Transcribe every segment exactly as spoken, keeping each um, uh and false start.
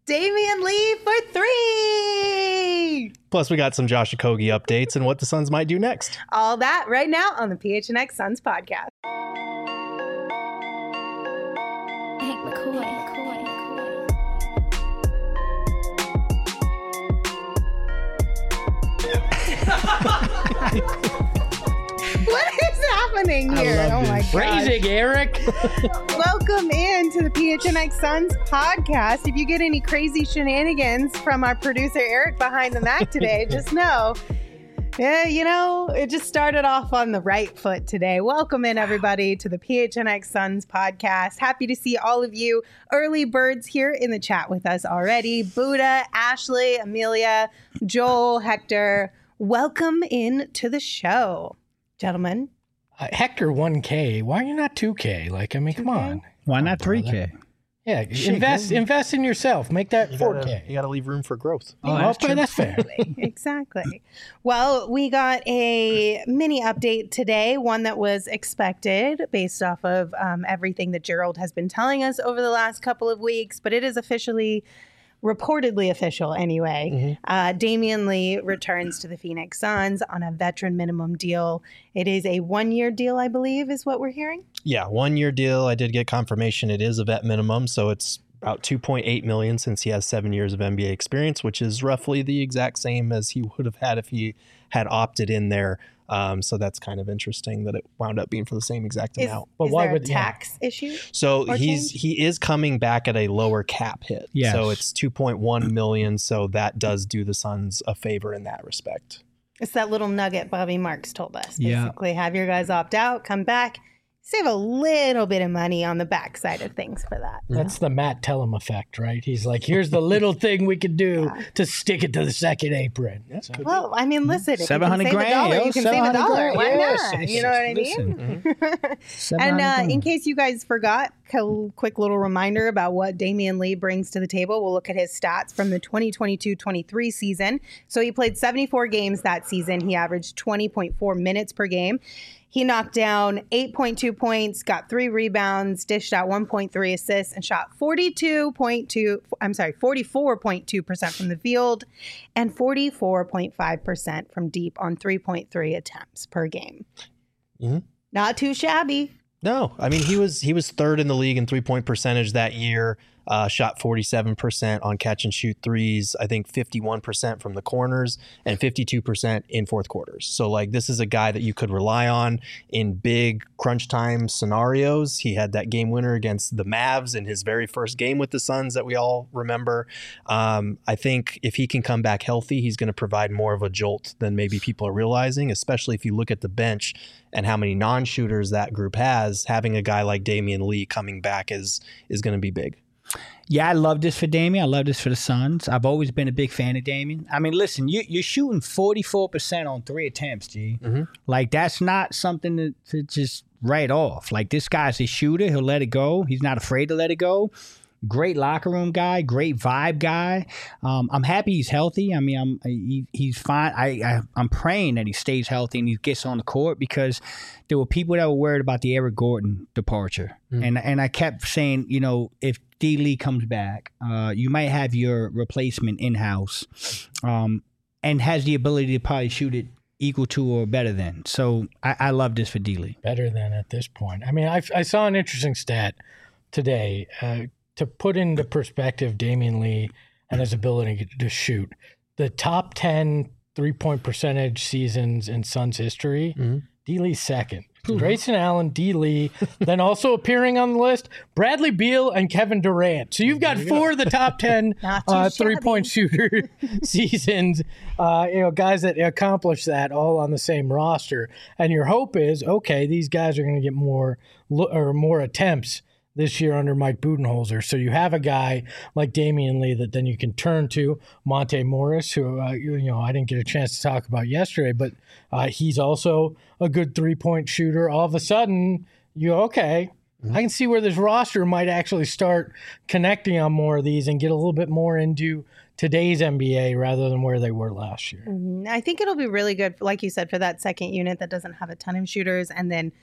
Damian Lee for three. Plus, we got some Josh Okogie updates and what the Suns might do next. All that right now on the P H N X Suns podcast. Hank McCoy. McCoy. What is happening here? Oh my god. Phrasing, Eric. Welcome in to the P H N X Suns podcast. If you get any crazy shenanigans from our producer Eric behind the Mac today, just know, yeah, you know, it just started off on the right foot today. Welcome in, everybody, to the P H N X Suns podcast. Happy to see all of you early birds here in the chat with us already. Buddha, Ashley, Amelia, Joel, Hector, welcome in to the show. Gentlemen. Uh, Hector one K. Why are you not two K? Like, I mean, come on. Why not three K? Yeah, invest invest in yourself. Make that You four gotta, K. you gotta leave room for growth. Oh, that's, okay, that's fair. Exactly. Well, we got a mini update today, one that was expected based off of um, everything that Gerald has been telling us over the last couple of weeks, but it is officially, reportedly official anyway. Mm-hmm. Uh, Damian Lee returns to the Phoenix Suns on a veteran minimum deal. It is a one-year deal, I believe, is what we're hearing. Yeah, one year deal. I did get confirmation it is a vet minimum, so it's about two point eight million dollars since he has seven years of N B A experience, which is roughly the exact same as he would have had if he had opted in there. Um, so that's kind of interesting that it wound up being for the same exact Is, amount. But is why there would- a tax issue? So or he's change? he is coming back at a lower cap hit. Yes. So it's two point one million dollars. So that does do the Suns a favor in that respect. It's that little nugget Bobby Marks told us. Yeah. Basically, have your guys opt out, come back, save a little bit of money on the backside of things for that. That's the Matt Tellem effect, right? He's like, here's the little thing we can do Yeah. to stick it to the second apron. So- Well, I mean, listen, if you seven can hundred save a grand, dollar, yo, you can save a seven hundred dollar. grand, Why yes. not? You know what I mean? Listen. seven And hundred uh, grand. in case you guys forgot, a quick little reminder about what Damian Lee brings to the table. We'll look at his stats from the twenty twenty-two twenty-three season. So he played seventy-four games that season. He averaged twenty point four minutes per game. He knocked down eight point two points, got three rebounds, dished out one point three assists, and shot forty-two point two, I'm sorry, forty-four point two percent from the field and forty-four point five percent from deep on three point three attempts per game. Mhm. Not too shabby. No, I mean, he was he was third in the league in three-point percentage that year, uh, shot forty-seven percent on catch and shoot threes, I think fifty-one percent from the corners and fifty-two percent in fourth quarters. So, like, this is a guy that you could rely on in big crunch time scenarios. He had that game winner against the Mavs in his very first game with the Suns that we all remember. Um, I think if he can come back healthy, he's going to provide more of a jolt than maybe people are realizing, especially if you look at the bench and how many non-shooters that group has. Having a guy like Damian Lee coming back is is going to be big. Yeah, I love this for Damian. I love this for the Suns. I've always been a big fan of Damian. I mean, listen, you, you're shooting forty-four percent on three attempts, G. Mm-hmm. Like, that's not something to, to just write off. Like, this guy's a shooter. He'll let it go. He's not afraid to let it go. Great locker room guy, great vibe guy. Um, I'm happy he's healthy. I mean, I'm he, he's fine. I, I I'm praying that he stays healthy and he gets on the court, because there were people that were worried about the Eric Gordon departure, mm. and and I kept saying, you know, if D. Lee comes back, uh, you might have your replacement in house, um, and has the ability to probably shoot it equal to or better than. So I, I love this for D. Lee. Better than at this point. I mean, I, I saw an interesting stat today. Uh, to put into perspective Damian Lee and his ability to shoot, the top ten three-point percentage seasons in Suns history, mm-hmm. D. Lee's second. Mm-hmm. Grayson Allen, D. Lee, then also appearing on the list, Bradley Beal and Kevin Durant. So you've got four of the top ten uh, three-point shooter seasons, uh, you know, guys that accomplish that all on the same roster. And your hope is, okay, these guys are going to get more or more attempts this year under Mike Budenholzer. So you have a guy like Damian Lee that then you can turn to. Monte Morris, who, uh, you, you know, I didn't get a chance to talk about yesterday, but uh, he's also a good three-point shooter. All of a sudden, you okay, mm-hmm. I can see where this roster might actually start connecting on more of these and get a little bit more into today's N B A rather than where they were last year. Mm-hmm. I think it'll be really good, like you said, for that second unit that doesn't have a ton of shooters, and then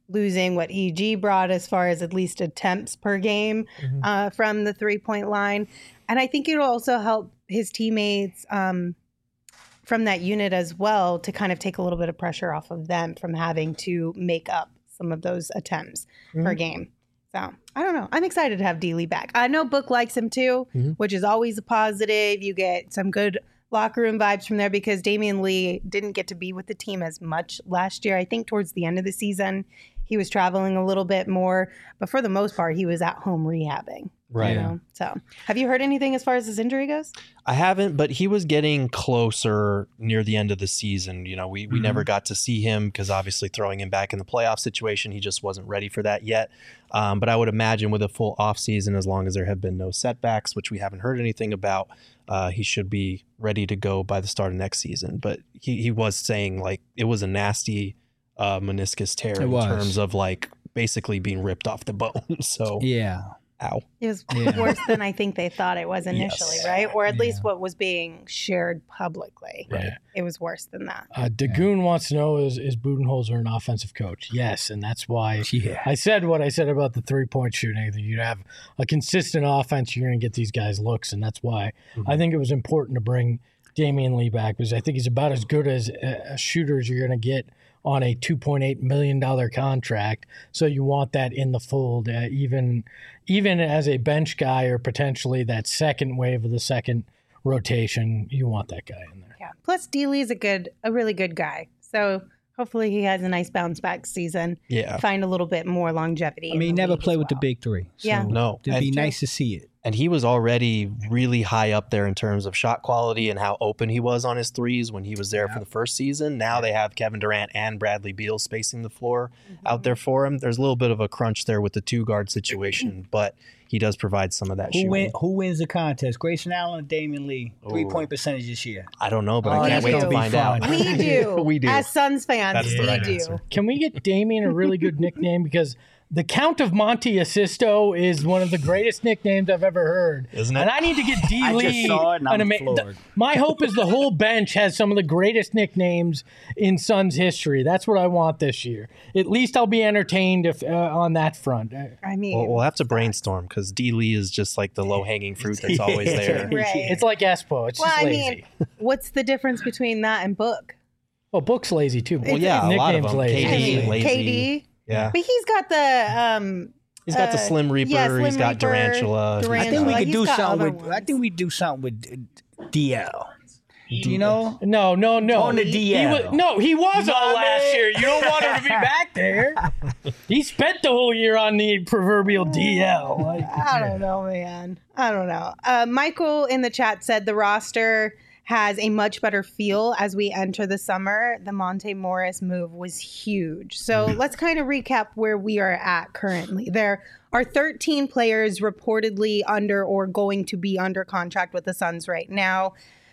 losing what E G brought as far as at least attempts per game Mhm. uh, from the three-point line. And I think it'll also help his teammates um, from that unit as well to kind of take a little bit of pressure off of them from having to make up some of those attempts per Mhm. game. So I don't know. I'm excited to have D. Lee back. I know Book likes him too, Mhm. which is always a positive. You get some good locker room vibes from there because Damian Lee didn't get to be with the team as much last year. I think towards the end of the season, he was traveling a little bit more, but for the most part, he was at home rehabbing. Right. You know? So have you heard anything as far as his injury goes? I haven't, but he was getting closer near the end of the season. You know, we, we Mhm. never got to see him because obviously throwing him back in the playoff situation, he just wasn't ready for that yet. Um, but I would imagine with a full offseason, as long as there have been no setbacks, which we haven't heard anything about, uh, he should be ready to go by the start of next season. But he, he was saying like it was a nasty uh, meniscus tear It in was. terms of like basically being ripped off the bone. So, Yeah. ow. It was Yeah. worse than I think they thought it was initially, Yes. right? Or at Yeah. least what was being shared publicly. Right. It was worse than that. Uh, Dagoon wants to know is is Budenholzer an offensive coach? Yes, and that's why Yeah. I said what I said about the three point shooting. That you have a consistent offense, you're going to get these guys looks, and that's why Mhm. I think it was important to bring Damian Lee back because I think he's about as good as a, a shooter as you're going to get on a two point eight million dollars contract. So you want that in the fold, uh, even even as a bench guy or potentially that second wave of the second rotation. You want that guy in there. Yeah. Plus, D. Lee is a good, a really good guy. So hopefully he has a nice bounce back season. Yeah. Find a little bit more longevity. I in mean, he the never league played as with the well. big three. So Yeah. No. it'd be And- nice to see it. And he was already really high up there in terms of shot quality and how open he was on his threes when he was there Yeah. for the first season. Now they have Kevin Durant and Bradley Beal spacing the floor Mm-hmm. out there for him. There's a little bit of a crunch there with the two guard situation, but he does provide some of that Who shooting. win? Who wins the contest? Grayson Allen or Damian Lee? Three point percentage this year. I don't know, but Oh, I can't that's wait gonna to be find fun. out. We do. We do. As Suns fans, That's the we right do. answer. Can we get Damien a really good nickname? Because the Count of Monte Assisto is one of the greatest nicknames I've ever heard. Isn't it? And I need to get D. I just Lee. saw it and I'm an ama- floored. th- My hope is the whole bench has some of the greatest nicknames in Suns history. That's what I want this year. At least I'll be entertained if uh, on that front. Uh, I mean, We'll, we'll have to brainstorm because D. Lee is just like the low hanging fruit that's always there. Right. It's like Espo. It's well, just I lazy. mean, what's the difference between that and Book? well, Book's lazy too. Well, yeah, a lot of Nickname's them. lazy. I K D, mean, lazy. K D. Yeah. But he's got the um He's got the Uh, Slim Reaper. yeah, Slim he's got Reaper, Durantula. Durant- I think we Angela, could he's do got something other with. I ones. think we do something with uh, D L. Do you know? No, no, no. On the He- D he L. was- no, he was You know on what I last mean? year. You don't want him to be back there. He spent the whole year on the proverbial D L. Like, I don't know, man. I don't know. Uh, Michael in the chat said the roster has a much better feel as we enter the summer. The Monte Morris move was huge. So let's kind of recap where we are at currently. There are thirteen players reportedly under or going to be under contract with the Suns right now.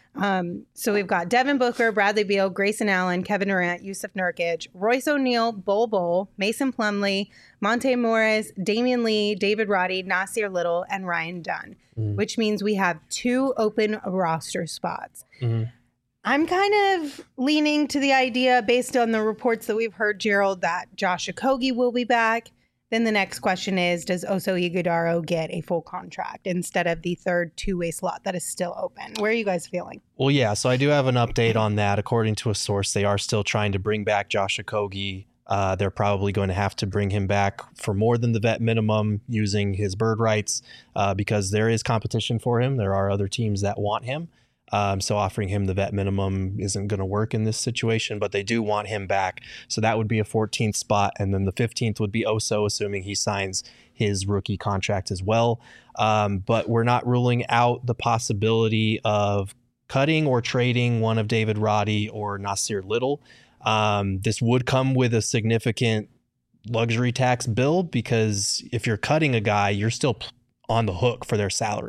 Um, so we've got Devin Booker, Bradley Beal, Grayson Allen, Kevin Durant, Yusuf Nurkic, Royce O'Neal, Bol Bol, Mason Plumlee, Monte Morris, Damian Lee, David Roddy, Nasir Little, and Ryan Dunn, Mm. which means we have two open roster spots. Mhm. I'm kind of leaning to the idea, based on the reports that we've heard, Gerald, that Josh Okogie will be back. Then the next question is, does Oso Ighodaro get a full contract instead of the third two-way slot that is still open? Where are you guys feeling? Well, yeah, so I do have an update on that. According to a source, they are still trying to bring back Josh Okogie. Uh, they're probably going to have to bring him back for more than the vet minimum using his bird rights uh, because there is competition for him. There are other teams that want him. Um, so offering him the vet minimum isn't going to work in this situation, but they do want him back. So that would be a fourteenth spot. And then the fifteenth would be Oso, assuming he signs his rookie contract as well. Um, but we're not ruling out the possibility of cutting or trading one of David Roddy or Nasir Little. Um, this would come with a significant luxury tax bill because if you're cutting a guy, you're still on the hook for their salary.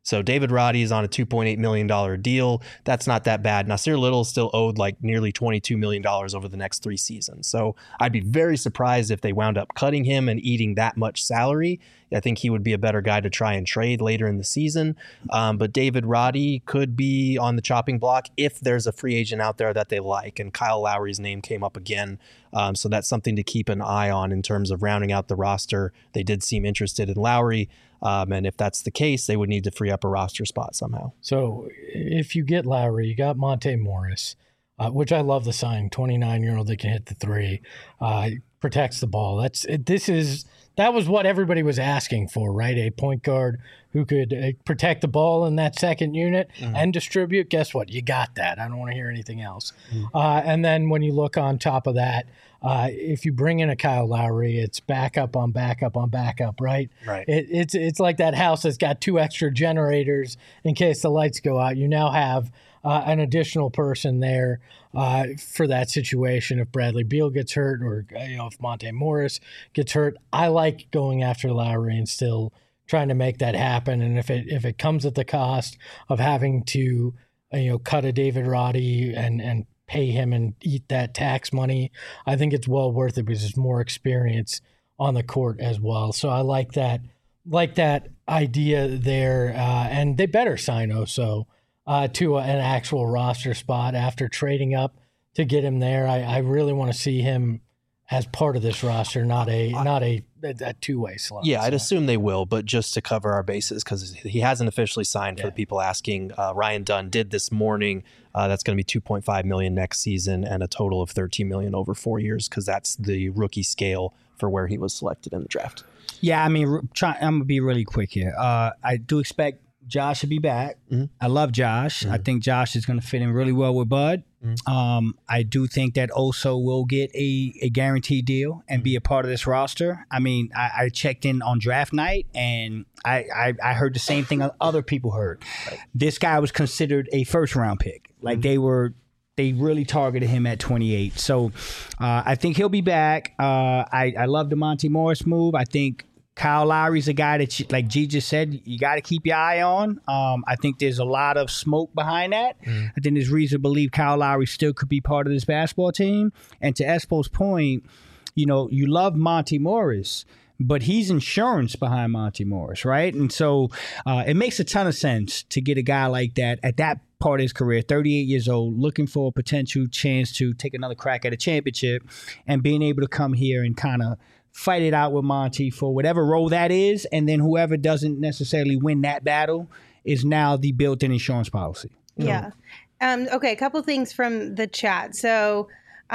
So David Roddy is on a two point eight million dollars deal. That's not that bad. Nasir Little still owed like nearly twenty-two million dollars over the next three seasons. So I'd be very surprised if they wound up cutting him and eating that much salary. I think he would be a better guy to try and trade later in the season. Um, but David Roddy could be on the chopping block if there's a free agent out there that they like. And Kyle Lowry's name came up again. Um, so that's something to keep an eye on in terms of rounding out the roster. They did seem interested in Lowry. Um, and if that's the case, they would need to free up a roster spot somehow. So if you get Lowry, you got Monte Morris, uh, which I love the sign, twenty-nine-year-old that can hit the three, uh, protects the ball. That's it, this is that was what everybody was asking for, right? A point guard who could uh, protect the ball in that second unit mm-hmm. and distribute. Guess what? You got that. I don't want to hear anything else. Mm-hmm. Uh, and then when you look on top of that, uh, if you bring in a Kyle Lowry, it's backup on backup on backup, right? Right. It, it's it's like that house that's got two extra generators in case the lights go out. You now have uh, an additional person there uh, for that situation. If Bradley Beal gets hurt, or you know, if Monte Morris gets hurt, I like going after Lowry and still trying to make that happen. And if it if it comes at the cost of having to you know cut a David Roddy and and pay him and eat that tax money, I think it's well worth it because there's more experience on the court as well. So I like that like that idea there. Uh, and they better sign Oso uh, to a, an actual roster spot after trading up to get him there. I, I really want to see him as part of this roster, not a not a, a two-way slot. Yeah, I'd so. assume they will, but just to cover our bases, because he hasn't officially signed. For Yeah. the people asking, uh, Ryan Dunn did this morning. Uh, that's going to be two point five million dollars next season and a total of thirteen million dollars over four years, because that's the rookie scale for where he was selected in the draft. Yeah, I mean, try, I'm going to be really quick here. Uh, I do expect Josh to be back. Mm-hmm. I love Josh. Mm-hmm. I think Josh is going to fit in really well with Bud. Mm-hmm. Um, I do think that Oso will get a, a guaranteed deal and mm-hmm. be a part of this roster. I mean, I, I checked in on draft night, and I, I, I heard the same thing other people heard. Right. This guy was considered a first-round pick. Like, mm-hmm. they were – They really targeted him at twenty-eight. So uh, I think he'll be back. Uh, I, I love the Monte Morris move. I think Kyle Lowry's a guy that, you, like G just said, you got to keep your eye on. Um, I think there's a lot of smoke behind that. Mm. I think there's reason to believe Kyle Lowry still could be part of this basketball team. And to Espo's point, you know, you love Monte Morris, but he's insurance behind Monte Morris, right? And so uh, it makes a ton of sense to get a guy like that at that part of his career, thirty-eight years old, looking for a potential chance to take another crack at a championship, and being able to come here and kind of fight it out with Monte for whatever role that is, and then whoever doesn't necessarily win that battle is now the built-in insurance policy. Yeah. Um, okay, a couple things from the chat. So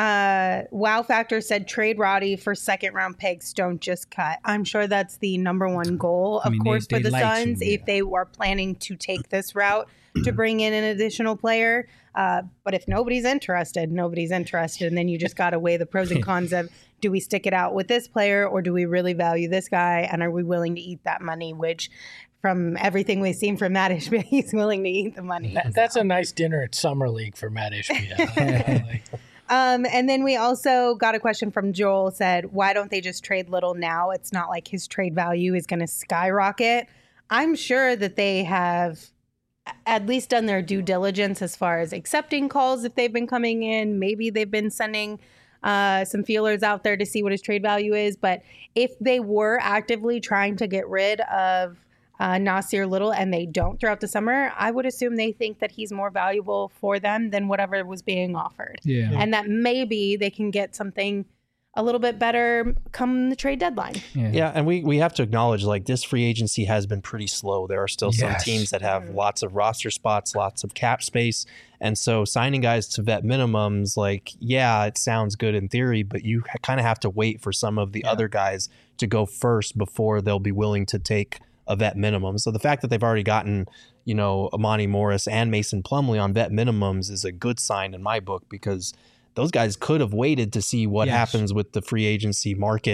uh, Wow Factor said trade Roddy for second-round picks, don't just cut. I'm sure that's the number one goal, of I mean, course, they, for they the like Suns, to, yeah. if they were planning to take this route to bring in an additional player. Uh, but if nobody's interested, nobody's interested. And then you just got to weigh the pros and cons of, do we stick it out with this player, or do we really value this guy? And are we willing to eat that money? Which, from everything we've seen from Matt Ishbia, he's willing to eat the money. That, that's a nice dinner at Summer League for Matt Ishbia. Um, and then we also got a question from Joel, said, why don't they just trade Little now? It's not like his trade value is going to skyrocket. I'm sure that they have at least done their due diligence as far as accepting calls if they've been coming in. Maybe they've been sending uh, some feelers out there to see what his trade value is. But if they were actively trying to get rid of uh, Nasir Little and they don't throughout the summer, I would assume they think that he's more valuable for them than whatever was being offered. Yeah. And that maybe they can get something a little bit better come the trade deadline. Yeah, yeah, and we, we have to acknowledge, like, this free agency has been pretty slow. There are still some Yes. teams that have lots of roster spots, lots of cap space. And so signing guys to vet minimums, like, yeah, it sounds good in theory, but you kind of have to wait for some of the yeah. other guys to go first before they'll be willing to take a vet minimum. So the fact that they've already gotten, you know, Amani Morris and Mason Plumlee on vet minimums is a good sign in my book, because those guys could have waited to see what Yes. happens with the free agency market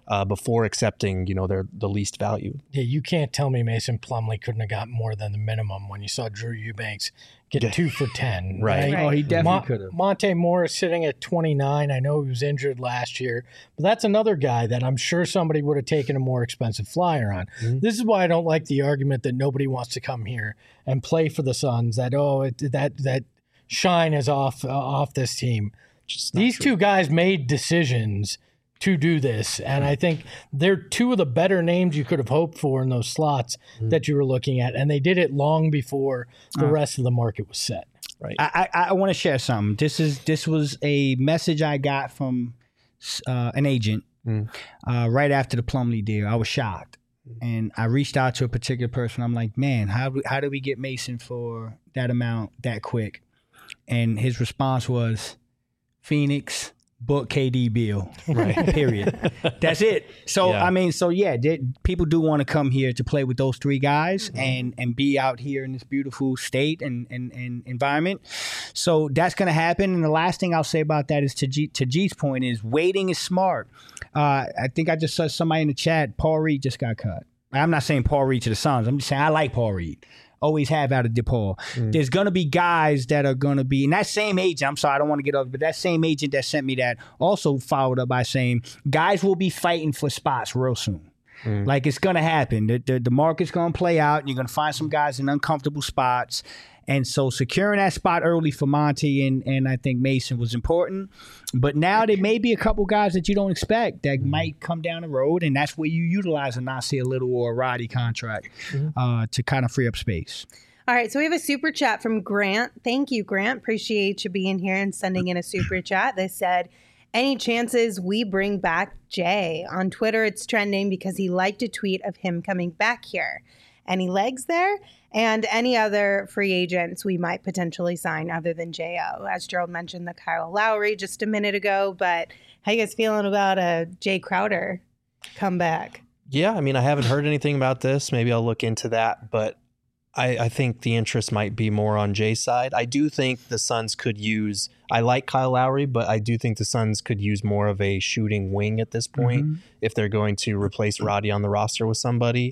uh, before accepting, you know, their the least value. Yeah, you can't tell me Mason Plumlee couldn't have got more than the minimum when you saw Drew Eubanks get Yeah. two for ten. Right. Right. Oh, he definitely Mon- could have. Monte Morris sitting at twenty-nine. I know he was injured last year, but that's another guy that I'm sure somebody would have taken a more expensive flyer on. Mhm. This is why I don't like the argument that nobody wants to come here and play for the Suns. That oh, it, that that shine is off uh, off this team. Just not These true. two guys made decisions to do this, and I think they're two of the better names you could have hoped for in those slots Mhm. that you were looking at, and they did it long before the Uh. rest of the market was set. Right. I, I, I want to share something. This is this was a message I got from uh, an agent Mm. uh, right after the Plumlee deal. I was shocked, and I reached out to a particular person. I'm like, man, how how did we get Mason for that amount that quick? And his response was, Phoenix, book K D Bill. Right. Period. That's it. So Yeah. I mean, so yeah, they, people do want to come here to play with those three guys and and be out here in this beautiful state and and, and environment. So that's going to happen. And the last thing I'll say about that is to G, to G's point is waiting is smart. Uh, I think I just saw somebody in the chat. Paul Reed just got cut. I'm not saying Paul Reed to the Suns. I'm just saying I like Paul Reed. Always have out of DePaul. Mm. There's going to be guys that are going to be, and that same agent, I'm sorry, I don't want to get over, but that same agent that sent me that also followed up by saying guys will be fighting for spots real soon. Mm. Like it's going to happen. The, the, the market's going to play out, and you're going to find some guys in uncomfortable spots. And so securing that spot early for Monty and, and I think Mason was important. But now there may be a couple guys that you don't expect that might come down the road, and that's where you utilize a Nasir Little or a Roddy contract uh, to kind of free up space. All right, so we have a super chat from Grant. Thank you, Grant. Appreciate you being here and sending in a super chat. They said, any chances we bring back Jay? On Twitter, it's trending because he liked a tweet of him coming back here. Any legs there? And any other free agents we might potentially sign other than J O. As Gerald mentioned, the Kyle Lowry just a minute ago. But how you guys feeling about a Jay Crowder comeback? Yeah, I mean, I haven't heard anything about this. Maybe I'll look into that, but I, I think the interest might be more on Jay's side. I do think the Suns could use, I like Kyle Lowry, but I do think the Suns could use more of a shooting wing at this point Mhm. if they're going to replace Roddy on the roster with somebody.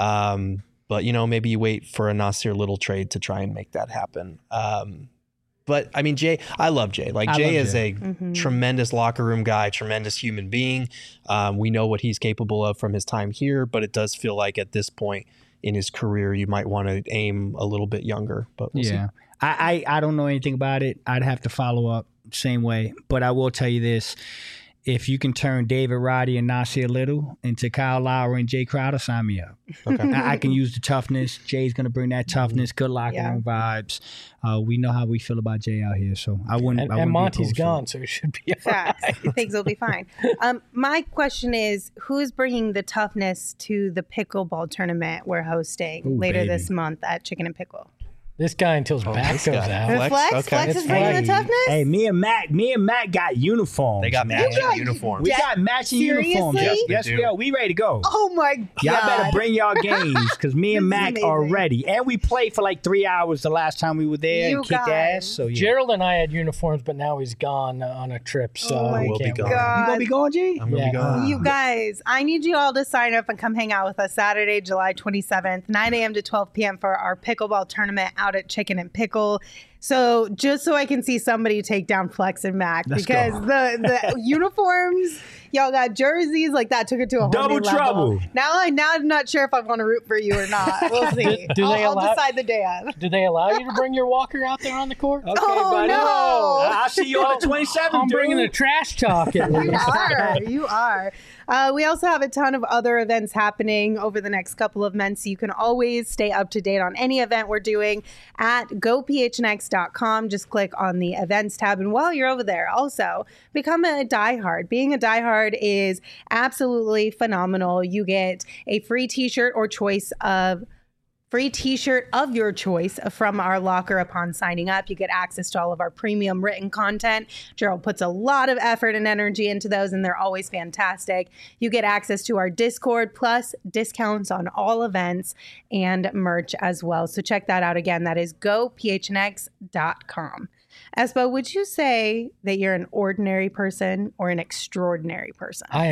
Um, but, you know, maybe you wait for a Nasir Little trade to try and make that happen. Um, but, I mean, Jay, I love Jay. Like, I Jay love is Jay. a Mhm. tremendous locker room guy, tremendous human being. Um, we know what he's capable of from his time here, but it does feel like at this point in his career, you might want to aim a little bit younger. But we'll see. Yeah. I, I, I don't know anything about it. I'd have to follow up same way. But I will tell you this. If you can turn David Roddy and Nasir Little into Kyle Lowry and Jay Crowder, sign me up. Okay. I, I can use the toughness. Jay's going to bring that toughness, good locker Yeah. room vibes. Uh, we know how we feel about Jay out here, so I wouldn't. And, I wouldn't and be Monty's opposed to it. gone, so it should be all Facts. right. Things will be fine. Um, my question is, who's bringing the toughness to the pickleball tournament we're hosting Ooh, later baby. this month at Chicken and Pickle? This guy until his Oh, back this goes guy. out. Flex? Flex? Okay. Flex is It's bringing fine. the toughness? Hey, me and Matt, me and Matt got uniforms. They got man. matching got- uniforms. We Yeah. got matching Seriously? uniforms. Yes, Yes, we yes, do. we are. We ready to go. Oh my God. Y'all better bring y'all games because me and This is Mac are amazing. ready. And we played for like three hours the last time we were there You and kicked guys. ass. So yeah. Gerald and I had uniforms, but now he's gone uh, on a trip, so Oh my we We'll be can't gone. wait. God. you gonna be going, G? I'm gonna Yeah. be gone. You guys, I need you all to sign up and come hang out with us Saturday, July twenty-seventh, nine a.m. to twelve p.m. for our pickleball tournament out at Chicken and Pickle. So just so I can see somebody take down Flex and Mac Let's because go. the, the uniforms, y'all got jerseys, like that took it to a whole Double new level. trouble. Now, I, now I'm not sure if I want to root for you or not. We'll see. Do- do I'll, they I'll allow- decide the day of. Do they allow you to bring your walker out there on the court? Okay, Oh, buddy. no. I'll see you on the twenty-seventh. I'm bringing the dude. trash talk at You least. are. You are. Uh, we also have a ton of other events happening over the next couple of months. So you can always stay up to date on any event we're doing at go p h n x dot com. Just click on the events tab. And while you're over there, also become a diehard. Being a diehard is absolutely phenomenal. You get a free t-shirt or choice of free t-shirt of your choice from our locker upon signing up. You get access to all of our premium written content. Gerald puts a lot of effort and energy into those, and they're always fantastic. You get access to our Discord, plus discounts on all events and merch as well. So check that out again. That is go p h n x dot com. Espo, would you say that you're an ordinary person or an extraordinary person? I am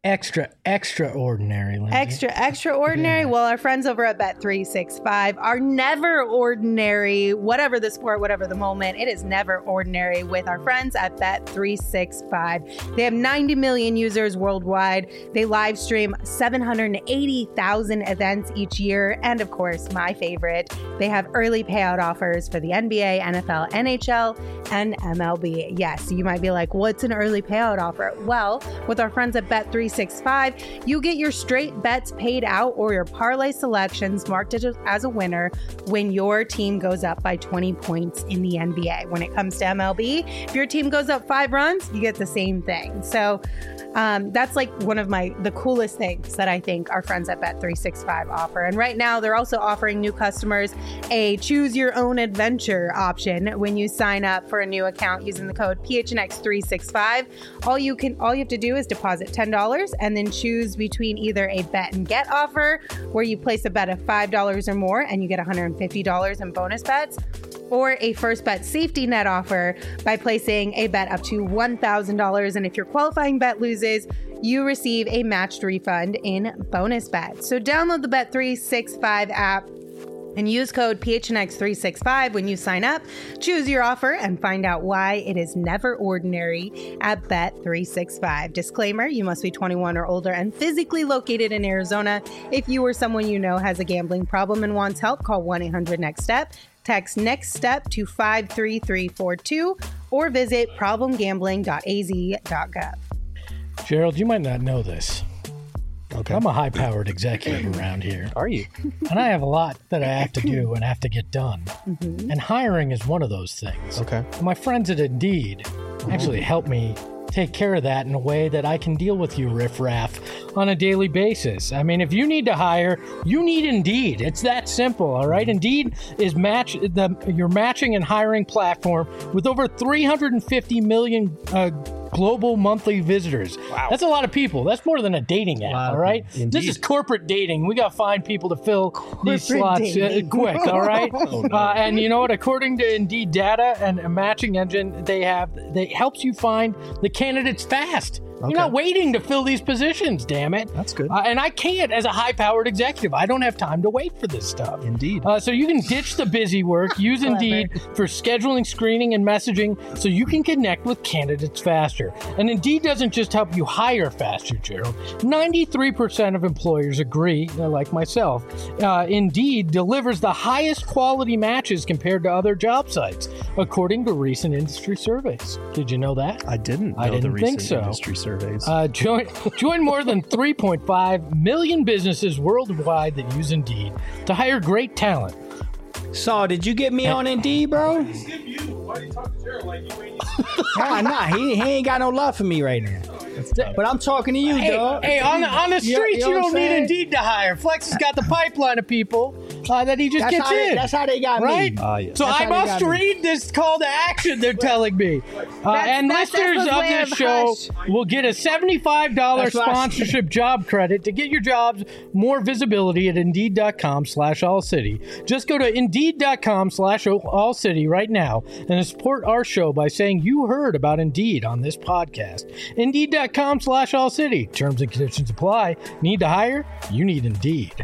Extra, extraordinary, Lindsay. Extra, extraordinary. Yeah. Well, our friends over at Bet three sixty-five are never ordinary. Whatever the sport, whatever the moment, it is never ordinary with our friends at Bet three sixty-five. They have ninety million users worldwide. They live stream seven hundred eighty thousand events each year. And of course, my favorite, they have early payout offers for the N B A, N F L, N H L, and M L B. Yes, you might be like, what's an early payout offer? Well, with our friends at Bet three sixty-five, you get your straight bets paid out or your parlay selections marked as a winner when your team goes up by twenty points in the N B A. When it comes to M L B, if your team goes up five runs, you get the same thing. So um, that's like one of my the coolest things that I think our friends at Bet three sixty-five offer. And right now, they're also offering new customers a choose your own adventure option when you sign up for a new account using the code P H N X three sixty-five. All you can all you have to do is deposit ten dollars and then choose between either a bet and get offer where you place a bet of five dollars or more and you get one hundred fifty dollars in bonus bets, or a first bet safety net offer by placing a bet up to one thousand dollars. And if your qualifying bet loses, you receive a matched refund in bonus bets. So download the Bet three sixty-five app and use code P H N X three sixty-five when you sign up. Choose your offer and find out why it is never ordinary at Bet three sixty-five. Disclaimer, you must be twenty-one or older and physically located in Arizona. If you or someone you know has a gambling problem and wants help, call one eight hundred next step. Text NEXT STEP to five three three four two or visit problem gambling dot a z dot gov. Gerald, you might not know this. Okay. I'm a high-powered executive around here. Are you? And I have a lot that I have to do and have to get done. Mm-hmm. And hiring is one of those things. Okay. My friends at Indeed actually help me take care of that in a way that I can deal with you riffraff on a daily basis. I mean, if you need to hire, you need Indeed. It's that simple, all right? Indeed is match the your matching and hiring platform with over three hundred fifty million uh, global monthly visitors. Wow. That's a lot of people. That's more than a dating app, all right? Indeed. This is corporate dating. We got to find people to fill these Corporate slots uh, dating. quick, all right? Oh, no. uh, and you know what? According to Indeed data and a matching engine, they have they helps you find the candidates fast. Okay. You're not waiting to fill these positions, damn it. That's good. Uh, and I can't as a high-powered executive. I don't have time to wait for this stuff. Indeed. Uh, so you can ditch the busy work, use Clever. Indeed for scheduling, screening, and messaging so you can connect with candidates faster. And Indeed doesn't just help you hire faster, Gerald. ninety-three percent of employers agree, uh, like myself. Uh, Indeed delivers the highest quality matches compared to other job sites, according to recent industry surveys. Did you know that? I didn't know I the didn't recent think so. industry surveys. Uh, join join more than three point five million businesses worldwide that use Indeed to hire great talent. Saul, did you get me on Indeed, bro? Skip you. Why do you talk to Gerald like you ain't? Nah, nah, he, he ain't got no love for me right now. But I'm talking to you, Hey, dog. hey, on the on the You- streets, you you, know what don't I'm need saying? Indeed to hire. Flex has got the pipeline of people uh, that he just That's gets how, they, in. that's how they got Right? me. Ah, yes. So That's I how they must got me. read this call to action they're telling me. Uh, That's- and that's listeners Espo's of way this of show hush. will get a seventy-five dollars That's what I said. sponsorship job credit to get your jobs more visibility at Indeed.com slash All City. Just go to Indeed.com slash All City right now and support our show by saying you heard about Indeed on this podcast. Indeed.com slash All City. Terms and conditions apply. Need to hire? You need Indeed.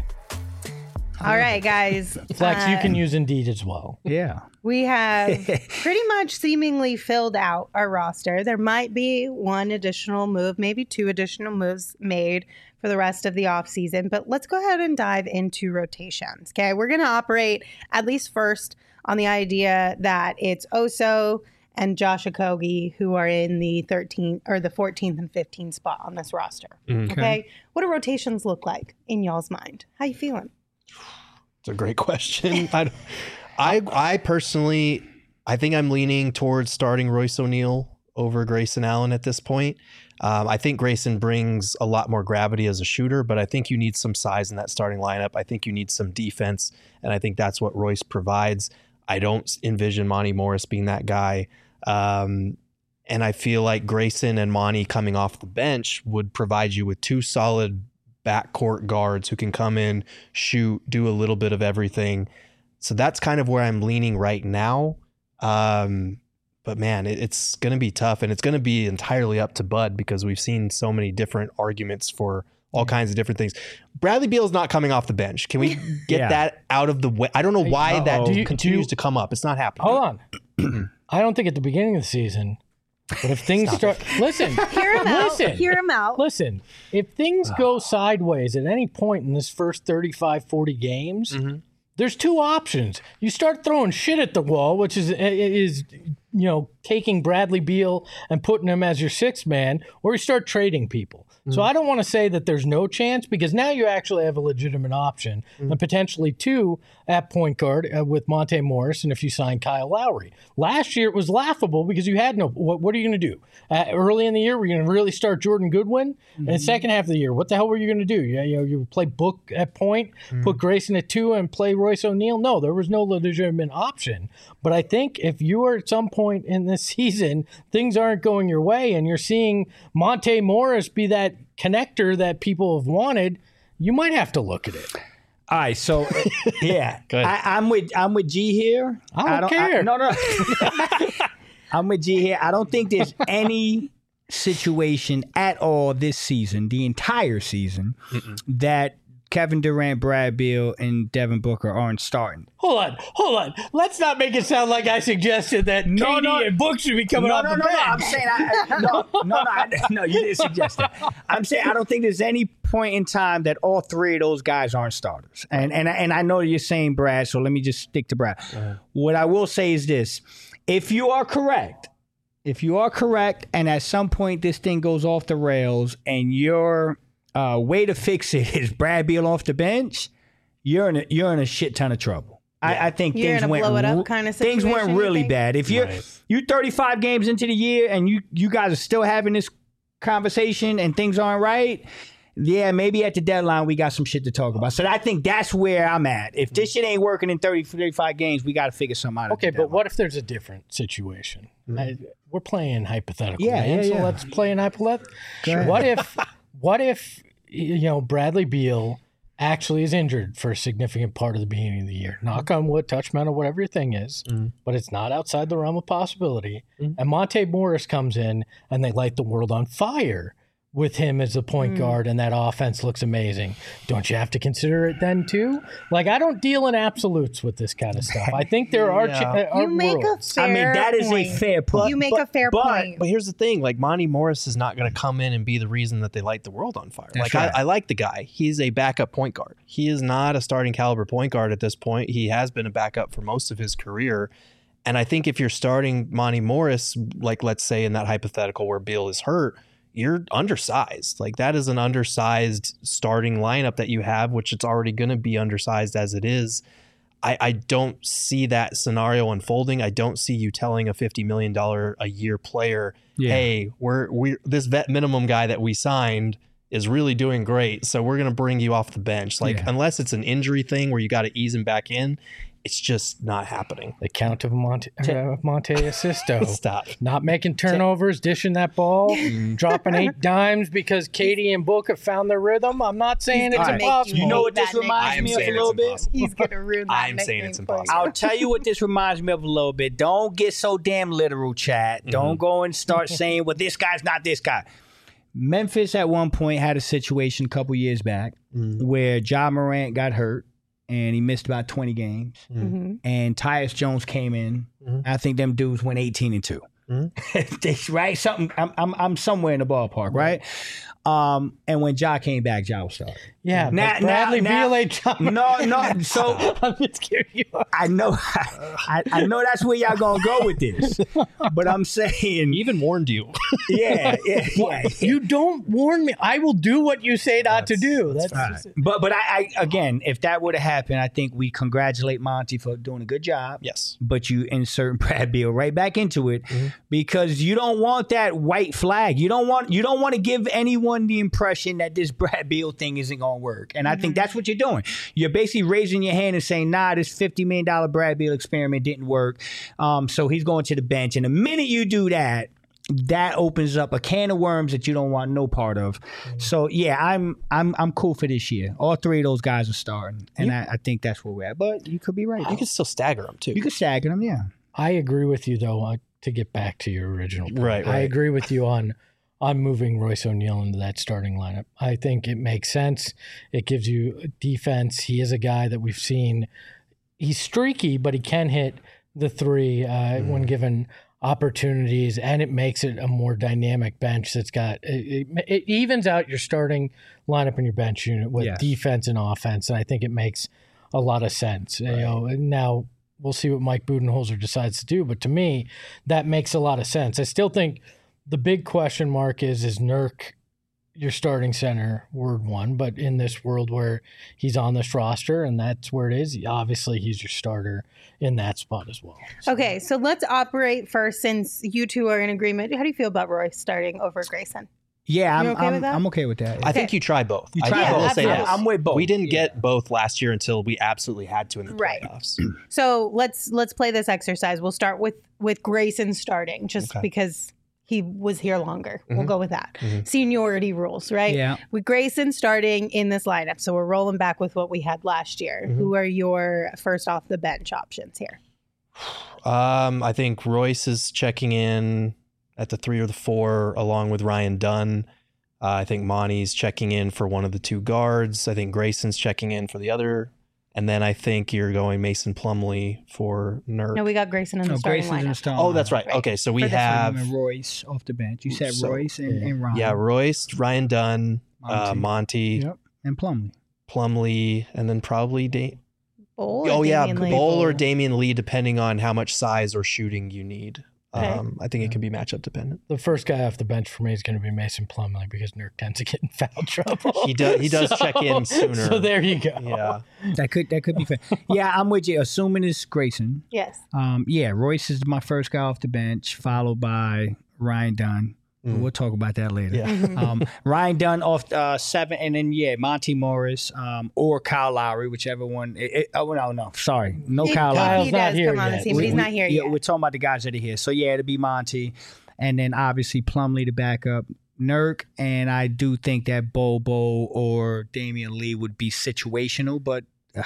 All right, guys. Flex, you Uh, can use Indeed as well. Yeah. We have pretty much seemingly filled out our roster. There might be one additional move, maybe two additional moves made for the rest of the offseason, but let's go ahead and dive into rotations. Okay, we're going to operate at least first on the idea that it's Oso and Josh Okogie who are in the thirteenth or the fourteenth and fifteenth spot on this roster. Mhm. Okay, what do rotations look like in y'all's mind? How you feeling? It's a great question. I, don't- I, I personally, I think I'm leaning towards starting Royce O'Neal over Grayson Allen at this point. Um, I think Grayson brings a lot more gravity as a shooter, but I think you need some size in that starting lineup. I think you need some defense, and I think that's what Royce provides. I don't envision Monty Morris being that guy. Um, and I feel like Grayson and Monty coming off the bench would provide you with two solid backcourt guards who can come in, shoot, do a little bit of everything. So that's kind of where I'm leaning right now. Um, but man, it, it's going to be tough, and it's going to be entirely up to Bud because we've seen so many different arguments for all kinds of different things. Bradley Beal's not coming off the bench. Can we get Yeah. that out of the way? I don't know why Uh-oh. that Do you- continues do you- to come up. It's not happening. Hold on. I don't think at the beginning of the season, but if things start, listen, Hear him out. listen, Hear him out. listen, if things go sideways at any point in this first thirty-five, forty games, there's two options. You start throwing shit at the wall, which is is you know taking Bradley Beal and putting him as your sixth man, or you start trading people. So I don't want to say that there's no chance because now you actually have a legitimate option and potentially two at point guard uh, with Monte Morris and if you sign Kyle Lowry. Last year it was laughable because you had no. What, what are you going to do? Uh, early in the year, we're going to really start Jordan Goodwin. In the second half of the year, what the hell were you going to do? You, you know, you play Book at point, put Grayson at two, and play Royce O'Neal. No, there was no legitimate option. But I think if you are at some point in this season, things aren't going your way, and you're seeing Monte Morris be that connector that people have wanted, you might have to look at it. All right, so yeah, Go ahead. I, I'm with I'm with G here. I don't care. no, no, I'm with G here. I don't think there's any situation at all this season, the entire season, that Kevin Durant, Brad Beal, and Devin Booker aren't starting. Hold on, hold on. Let's not make it sound like I suggested that No, K D no. and Book should be coming no, off no, the no, bench. no. I'm saying, I, I- no, no, no, I, no. You didn't suggest that. I'm saying I don't think there's any point in time that all three of those guys aren't starters. And and and I know you're saying Brad, so let me just stick to Brad. What I will say is this: if you are correct, if you are correct, and at some point this thing goes off the rails, and your uh, way to fix it is Brad Beal off the bench, you're in a, you're in a shit ton of trouble. I, I think You're things in a went blow it up ru- kind of things situation, went you really think? bad. If you're Right. you thirty-five games into the year and you you guys are still having this conversation and things aren't right, yeah, maybe at the deadline we got some shit to talk about. So I think that's where I'm at. If this shit ain't working in thirty, thirty-five games, we got to figure something out. at Okay, the but deadline. what if there's a different situation? I, we're playing hypothetical, Yeah, man. yeah, so yeah. let's play an hypothetical. ahead. What if, what if, you know, Bradley Beal actually is injured for a significant part of the beginning of the year? Knock on wood, touch metal, whatever your thing is, but it's not outside the realm of possibility. And Monte Morris comes in and they light the world on fire with him as the point guard, and that offense looks amazing. Don't you have to consider it then too? Like, I don't deal in absolutes with this kind of stuff. I think there are, Yeah. ch- are You make a worlds. fair I mean, that is point. a fair point. You make But- a fair but- point. But here's the thing: like Monty Morris is not going to come in and be the reason that they light the world on fire. That's like right. I, I like the guy; he's a backup point guard. He is not a starting caliber point guard at this point. He has been a backup for most of his career, and I think if you're starting Monty Morris, like let's say in that hypothetical where Beal is hurt, you're undersized. Like that is an undersized starting lineup that you have, which it's already going to be undersized as it is. I, I don't see that scenario unfolding. I don't see you telling a fifty million dollars a year player, Yeah. hey, we're we this vet minimum guy that we signed is really doing great, so we're going to bring you off the bench. Like Yeah. unless it's an injury thing where you got to ease him back in, it's just not happening. The count of Monte, uh, Monte Asisto. Stop. Not making turnovers, dishing that ball, Mm. dropping eight dimes because Katie and Book have found their rhythm. I'm not saying He's it's gonna make impossible. You know what That this reminds I'm me of a saying little it's bit? impossible. He's gonna ruin that. I'm saying nickname it's for you. impossible. I'll tell you what this reminds me of a little bit. Don't get so damn literal, chat. Don't go and start saying, well, this guy's not this guy. Memphis at one point had a situation a couple years back where Ja Morant got hurt and he missed about twenty games. Mhm. And Tyus Jones came in. Mhm. I think them dudes went eighteen and two. They- right? Something. I'm, I'm I'm somewhere in the ballpark, right? Um, and when Ja came back, Ja was starting. Yeah, Now- but Bradley now- Beal ain't John. No, no. So I'm just kidding you. I know, I, I know that's where y'all gonna go with this, but I'm saying, He even warned you. yeah, yeah, yeah. You don't warn me. I will do what you say not to do. That's, Right. But but I, I again, if that would have happened, I think we congratulate Monty for doing a good job. Yes. But you insert Brad Beal right back into it because you don't want that white flag. You don't want you don't want to give anyone the impression that this Brad Beal thing isn't gonna work. And I think that's what you're doing. You're basically raising your hand and saying, nah, this fifty million dollars Brad Beal experiment didn't work. Um, so he's going to the bench. And the minute you do that, that opens up a can of worms that you don't want no part of. So yeah, I'm I'm I'm cool for this year. All three of those guys are starting, and I, I think that's where we're at. But you could be right. You can still stagger him too. You could stagger them, yeah. I agree with you, though. Uh, to get back to your original point. Right, I right. agree with you on on moving Royce O'Neal into that starting lineup. I think it makes sense. It gives you defense. He is a guy that we've seen. He's streaky, but he can hit the three uh, mm. when given opportunities, and it makes it a more dynamic bench that's got it, it, it evens out your starting lineup and your bench unit with Yes. defense and offense, and I think it makes a lot of sense. Right. You know, now we'll see what Mike Budenholzer decides to do, but to me, that makes a lot of sense. I still think the big question mark is, is Nurk your starting center, word one, but in this world where he's on this roster and that's where it is, obviously he's your starter in that spot as well. So, Okay, so let's operate first since you two are in agreement. How do you feel about Royce starting over Grayson? Yeah, I'm You okay I'm, with that? I'm okay with that. I think you try both. You I try I will both. say Yeah, this. I'm with both. We didn't Yeah. get both last year until we absolutely had to in the Right. playoffs. So let's let's play this exercise. We'll start with with Grayson starting, just Okay. because he was here longer. We'll Mhm. go with that. Mhm. Seniority rules, right? Yeah. With Grayson starting in this lineup, so we're rolling back with what we had last year. Mhm. Who are your first off the bench options here? Um, I think Royce is checking in at the three or the four, along with Ryan Dunn. Uh, I think Monty's checking in for one of the two guards. I think Grayson's checking in for the other. And then I think you're going Mason Plumlee for Nurk. No, we got Grayson in the No, starting Grayson's in the lineup. starting. oh, that's right. Right. Okay, so we For this one, have And Royce off the bench. You said So, Royce and, yeah. and Ryan. yeah Royce, Ryan Dunn, uh, Monty. Monty, Yep. And Plumlee. Plumlee, and then probably da- Bowl or oh yeah, Damian Lee? Bowl or Damian Lee, depending on how much size or shooting you need. Okay. Um, I think it can be matchup dependent. the first guy off the bench for me is going to be Mason Plumlee because Nurk tends to get in foul trouble. He does- he does check in sooner. So there you go. Yeah. That could that could be fair. Yeah, I'm with you. Assuming it's Grayson. Yes. Um, yeah, Royce is my first guy off the bench, followed by Ryan Dunn. Mm. We'll talk about that later. Yeah. Mhm. Um, Ryan Dunn off uh, seven, and then yeah, Monty Morris um, or Kyle Lowry, whichever one. It, it, oh no, no, sorry, no He- Kyle he Lowry. Kyle's not does here come on the yet. team, but he's We- not we- here yeah, yet. we're talking about the guys that are here. So yeah, it'll be Monty, and then obviously Plumlee to back up Nurk, and I do think that Bobo or Damian Lee would be situational, but. Uh,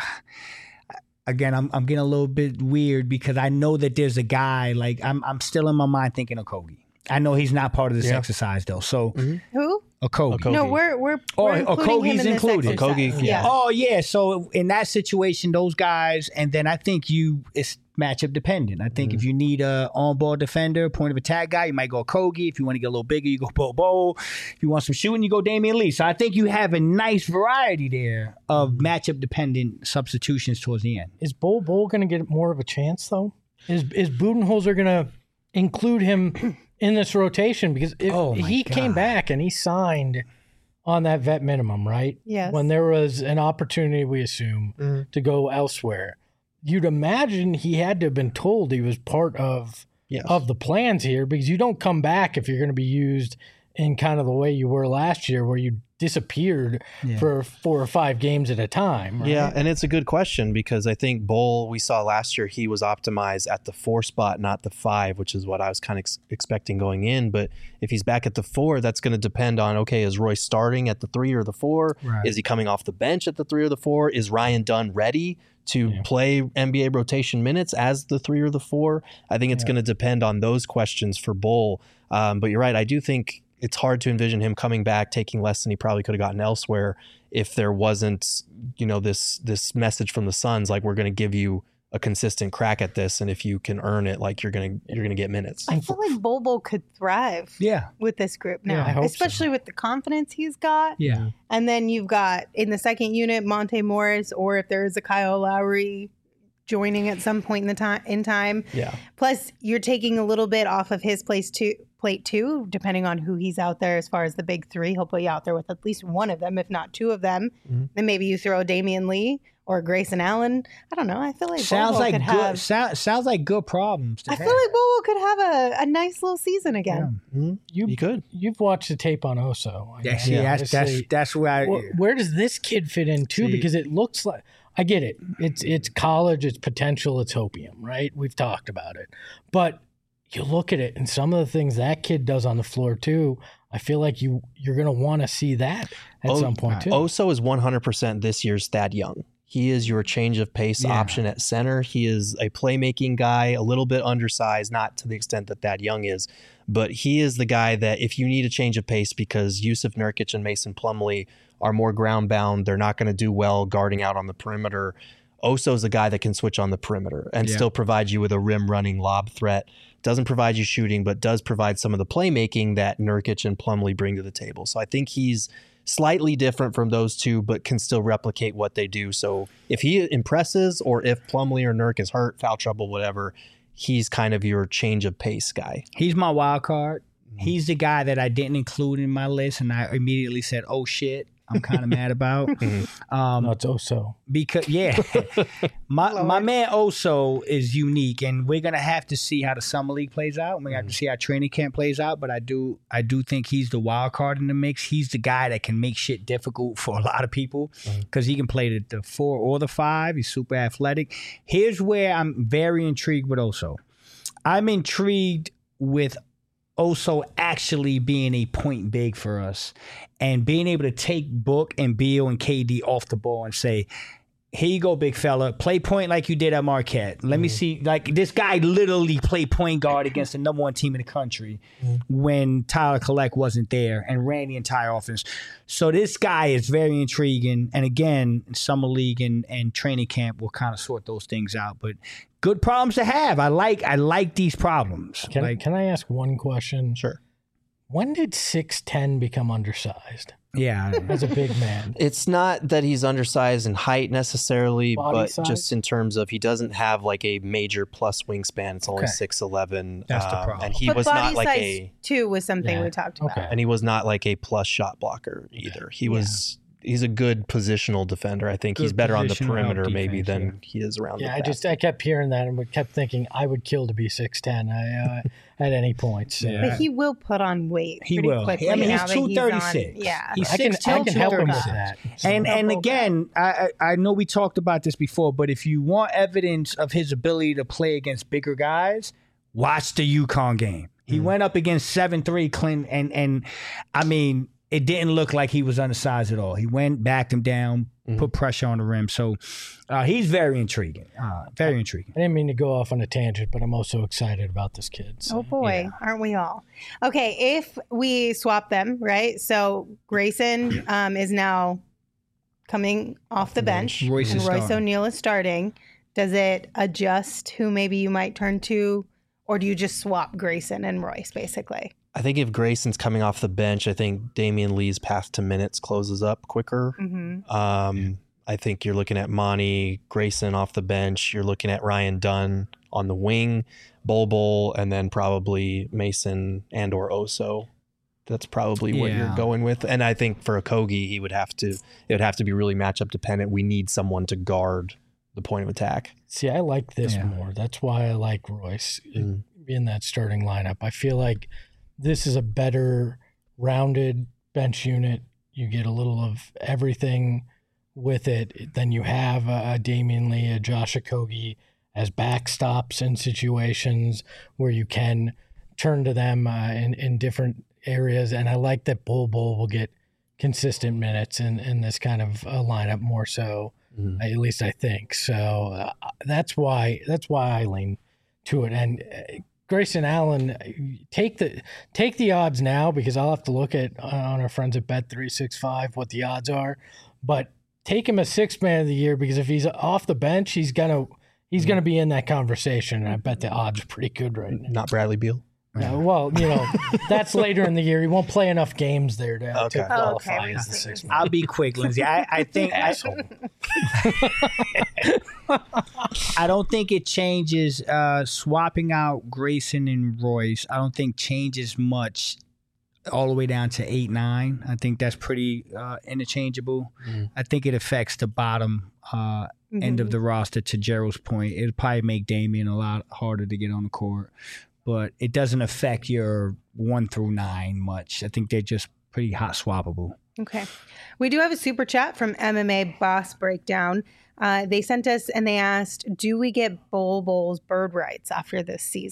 Again, I'm I'm getting a little bit weird because I know that there's a guy like I'm I'm still in my mind thinking of Kogi. I know he's not part of this Yeah. exercise though. So Who? Okogie. Okogie. No, we're we're, Oh, we're oh, including him Okogie's in this included. exercise. Okogie, yeah. Oh yeah, so in that situation, those guys, and then I think you it's matchup dependent. I think if you need a on-ball defender, point of attack guy, you might go Kogi. If you want to get a little bigger, you go Bobo. If you want some shooting, you go Damian Lee. So I think you have a nice variety there of matchup dependent substitutions towards the end. Is Bull Bull going to get more of a chance though? Is is Budenholzer going to include him in this rotation? Because if Oh, my he came God. back and he signed on that vet minimum, right? Yes. When there was an opportunity, we assume, Mhm. to go elsewhere, you'd imagine he had to have been told he was part of Yes. of the plans here, because you don't come back if you're going to be used in kind of the way you were last year, where you disappeared Yeah. for four or five games at a time. Right? Yeah, and it's a good question because I think Bull, we saw last year, he was optimized at the four spot, not the five, which is what I was kind of ex- expecting going in. But if he's back at the four, that's going to depend on, okay, is Royce starting at the three or the four? Right. Is he coming off the bench at the three or the four? Is Ryan Dunn ready to Yeah. play N B A rotation minutes as the three or the four? I think it's Yeah. going to depend on those questions for Bull. Um, but you're right. I do think it's hard to envision him coming back, taking less than he probably could have gotten elsewhere if there wasn't, you know, this this message from the Suns, like, we're going to give you a consistent crack at this, and if you can earn it, like, you're going to you're going to get minutes. I feel like Bobo could thrive Yeah, with this group Yeah, now, I hope so. especially with the confidence he's got. yeah. And then you've got in the second unit Monte Morris, or if there is a Kyle Lowry joining at some point in the time in time. Yeah. Plus, you're taking a little bit off of his place too, plate too, depending on who he's out there as far as the big three. He'll put you out there with at least one of them, if not two of them. Mhm. Then maybe you throw Damian Lee or Grayson Allen. I don't know. I feel like Sounds Bobo like could good. have. Sound, sounds like good problems. To I have. feel like Bobo could have a, a nice little season again. Mhm. You, You could. You've watched the tape on Oso. I Yeah, mean, see, that's that's obviously- that's where I. Wh- where does this kid fit in too? See- Because it looks like, I get it. It's it's college, it's potential, it's hopium, right? We've talked about it. But you look at it and some of the things that kid does on the floor too, I feel like you you're gonna want to see that at Oh, some point too. Oso is one hundred percent this year's Thad Young. He is your change of pace Yeah. option at center. He is a playmaking guy, a little bit undersized, not to the extent that Thad Young is, but he is the guy that if you need a change of pace because Yusuf Nurkic and Mason Plumlee are more ground bound, they're not going to do well guarding out on the perimeter. Oso's the guy that can switch on the perimeter and Yeah. still provide you with a rim running lob threat. Doesn't provide you shooting, but does provide some of the playmaking that Nurkic and Plumlee bring to the table. So I think he's slightly different from those two, but can still replicate what they do. So if he impresses, or if Plumlee or Nurk is hurt, foul trouble, whatever, he's kind of your change of pace guy. He's my wild card. He's the guy that I didn't include in my list, and I immediately said, "Oh shit." I'm kind of mad about um, No, it's Oso. because yeah, my my man Oso is unique, and we're gonna have to see how the summer league plays out. We have to see how training camp plays out. But I do I do think he's the wild card in the mix. He's the guy that can make shit difficult for a lot of people because he can play the, the four or the five. He's super athletic. Here's where I'm very intrigued with Oso. I'm intrigued with Oso actually being a point big for us and being able to take Book and Beal and K D off the ball and say, here you go, big fella. Play point like you did at Marquette. Let mm-hmm. me see. Like, this guy literally played point guard against the number one team in the country mm-hmm. when Tyler Collect wasn't there and ran the entire offense. So this guy is very intriguing. And again, summer league and, and training camp will kind of sort those things out. But good problems to have. I like I like these problems. Can, like, can I ask one question? Sure. When did six ten become undersized yeah. as a big man? It's not that he's undersized in height necessarily, Body but size? just in terms of he doesn't have like a major plus wingspan. It's only Okay. six eleven. That's the problem. And he but was body not like size a too was something Yeah. we talked about. Okay. and he was not like a plus shot blocker either. He was he's a good positional defender. I think Good he's better on the positional perimeter help maybe defense, than he is around Yeah, the I basket. just I kept hearing that and kept thinking I would kill to be six ten uh, at any point. So. Yeah. But he will put on weight He pretty will. quickly. I mean, he's now that two thirty-six. on- Yeah. He's I can, six I ten, can help him with two thirty-six. that. So- And and Double again, I I I know we talked about this before, but if you want evidence of his ability to play against bigger guys, watch the UConn game. He Mm. went up against seven three Clint, and and I mean, it didn't look like he was undersized at all. He went, backed him down, Mhm. put pressure on the rim. So uh, he's very intriguing. Uh, very intriguing. I didn't mean to go off on a tangent, but I'm also excited about this kid. So. Oh boy, aren't we all? Okay, if we swap them, right? So Grayson um, is now coming off the bench, Royce and is Royce starting. O'Neal is starting. Does it adjust who maybe you might turn to, or do you just swap Grayson and Royce basically? I think if Grayson's coming off the bench, I think Damian Lee's path to minutes closes up quicker. Mm-hmm. Um, I think you're looking at Monty, Grayson off the bench. You're looking at Ryan Dunn on the wing, Bol Bol, and then probably Mason and or Oso. That's probably what Yeah. you're going with. And I think for Okogie, he would have to. It would have to be really matchup dependent. We need someone to guard the point of attack. See, I like this Yeah. more. That's why I like Royce Mm. in that starting lineup. I feel like this is a better rounded bench unit. You get a little of everything with it. Then you have a, a Damian Lee, a Josh Okogie as backstops in situations where you can turn to them uh, in, in different areas. And I like that Bol Bol will get consistent minutes in, in this kind of uh, lineup more so. Mm. At least I think so. Uh, that's why that's why I lean to it. And uh, Grayson Allen, take the take the odds now because I'll have to look at uh, on our friends at Bet three sixty-five what the odds are. But take him as sixth man of the year because if he's off the bench, he's gonna he's gonna be in that conversation. And I bet the odds are pretty good right now. Not Bradley Beal. Uh, well, you know, that's later in the year. He won't play enough games there to, Okay. to qualify Okay. as the sixth man. I'll be quick, Lindsay. I, I think I, Asshole. I don't think it changes. Uh, swapping out Grayson and Royce, I don't think changes much all the way down to eight nine. I think that's pretty uh, interchangeable. Mm. I think it affects the bottom uh, end of the roster. To Gerald's point, it'll probably make Damian a lot harder to get on the court, but it doesn't affect your one through nine much. I think they're just pretty hot swappable. Okay. We do have a super chat from M M A Boss Breakdown. Uh, they sent us and they asked, do we get Bol Bol's bird rights after this season?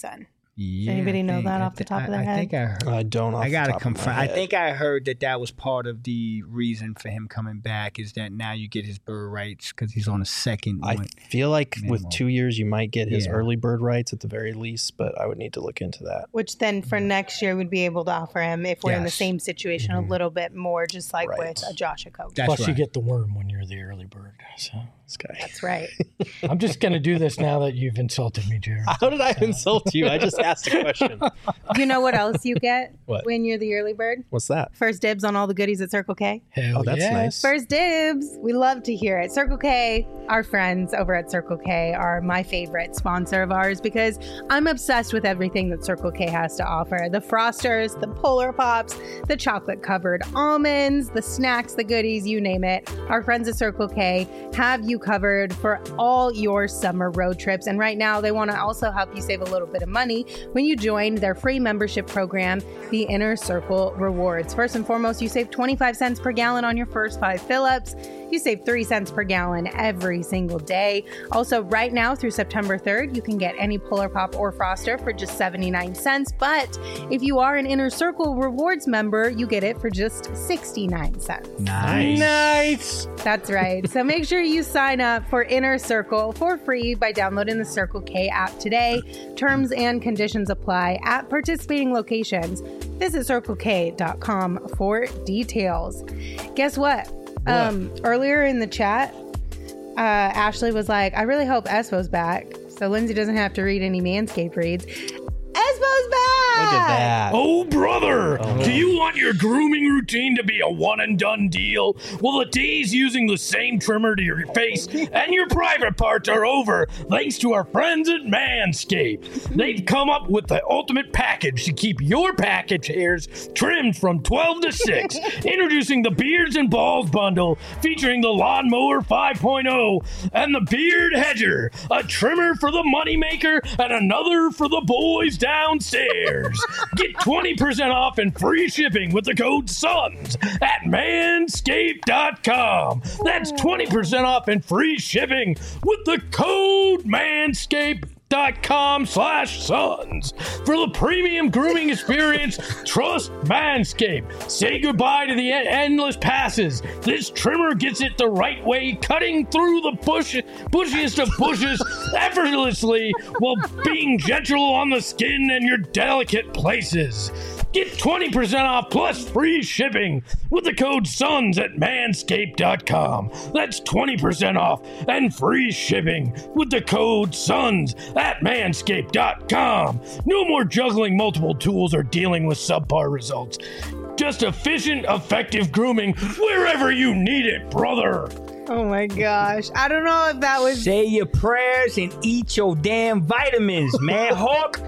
Yeah, anybody I know think- that I off the thi- top of I- their I head? think I heard. I don't. Off I the gotta top of my confirm. I head. think I heard that that was part of the reason for him coming back is that now you get his bird rights because he's on a second I one. feel like with Minimum. two years, you might get his Yeah. early bird rights at the very least, but I would need to look into that. Which then for next year would be able to offer him if we're in the Yes. same situation a little bit more, just like Right. with a Josh Okogie. That's Plus, right. you get the worm when you're the early bird. So This guy. That's right. I'm just going to do this now that you've insulted me, Jared. How did I insult you? I just asked a question. You know what else you get What? when you're the early bird? What's that? First dibs on all the goodies at Circle K. Hell Oh, that's yes. nice. First dibs. We love to hear it. Circle K, our friends over at Circle K are my favorite sponsor of ours because I'm obsessed with everything that Circle K has to offer. The Frosters, the Polar Pops, the chocolate covered almonds, the snacks, the goodies, you name it. Our friends at Circle K have you covered for all your summer road trips. And right now they want to also help you save a little bit of money when you join their free membership program, the Inner Circle Rewards. First and foremost, you save twenty-five cents per gallon on your first five fill-ups. You save three cents per gallon every single day. Also, right now through September third, you can get any Polar Pop or Froster for just seventy-nine cents. But if you are an Inner Circle Rewards member, you get it for just sixty-nine cents. Nice. Nice. That's right. So make sure you sign up for Inner Circle for free by downloading the Circle K app today. Terms and conditions apply at participating locations. Visit circle k dot com for details. Guess what? Um, earlier in the chat, uh, Ashley was like, I really hope Espo's back. So Lindsay doesn't have to read any Manscaped reads. Espo's back! Look at that. Oh, brother, Oh. do you want your grooming routine to be a one and done deal? Well, the days using the same trimmer to your face and your private parts are over thanks to our friends at Manscaped. They've come up with the ultimate package to keep your package hairs trimmed from twelve to six. Introducing the Beards and Balls bundle featuring the Lawnmower five point oh and the Beard Hedger, a trimmer for the moneymaker and another for the boys downstairs. Get twenty percent off and free shipping with the code SONS at manscaped dot com. That's twenty percent off and free shipping with the code manscaped dot com slash sons. For the premium grooming experience, trust Manscaped. Say goodbye to the en- endless passes. This trimmer gets it the right way, cutting through the bush, bushiest of bushes effortlessly while being gentle on the skin and your delicate places. Get twenty percent off plus free shipping with the code SONS at manscaped dot com. That's twenty percent off and free shipping with the code SONS at manscaped dot com. No more juggling multiple tools or dealing with subpar results. Just efficient, effective grooming wherever you need it, brother. Oh my gosh. I don't know if that was. Say your prayers and eat your damn vitamins, man. Hulk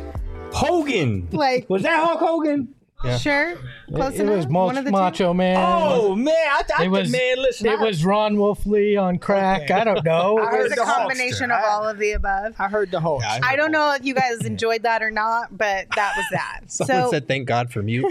Hogan. Like- was that Hulk Hogan? Sure. Close It enough. was One of the two? Macho Man. Oh man, I, I it was, man. Listen, it I, was Ron Wolfley on crack. I don't know. I heard It's a the combination Hulkster. of all of the above. I heard the Hulk. Yeah, I don't know if you guys enjoyed that or not, but that was that. Someone so said thank God for mute.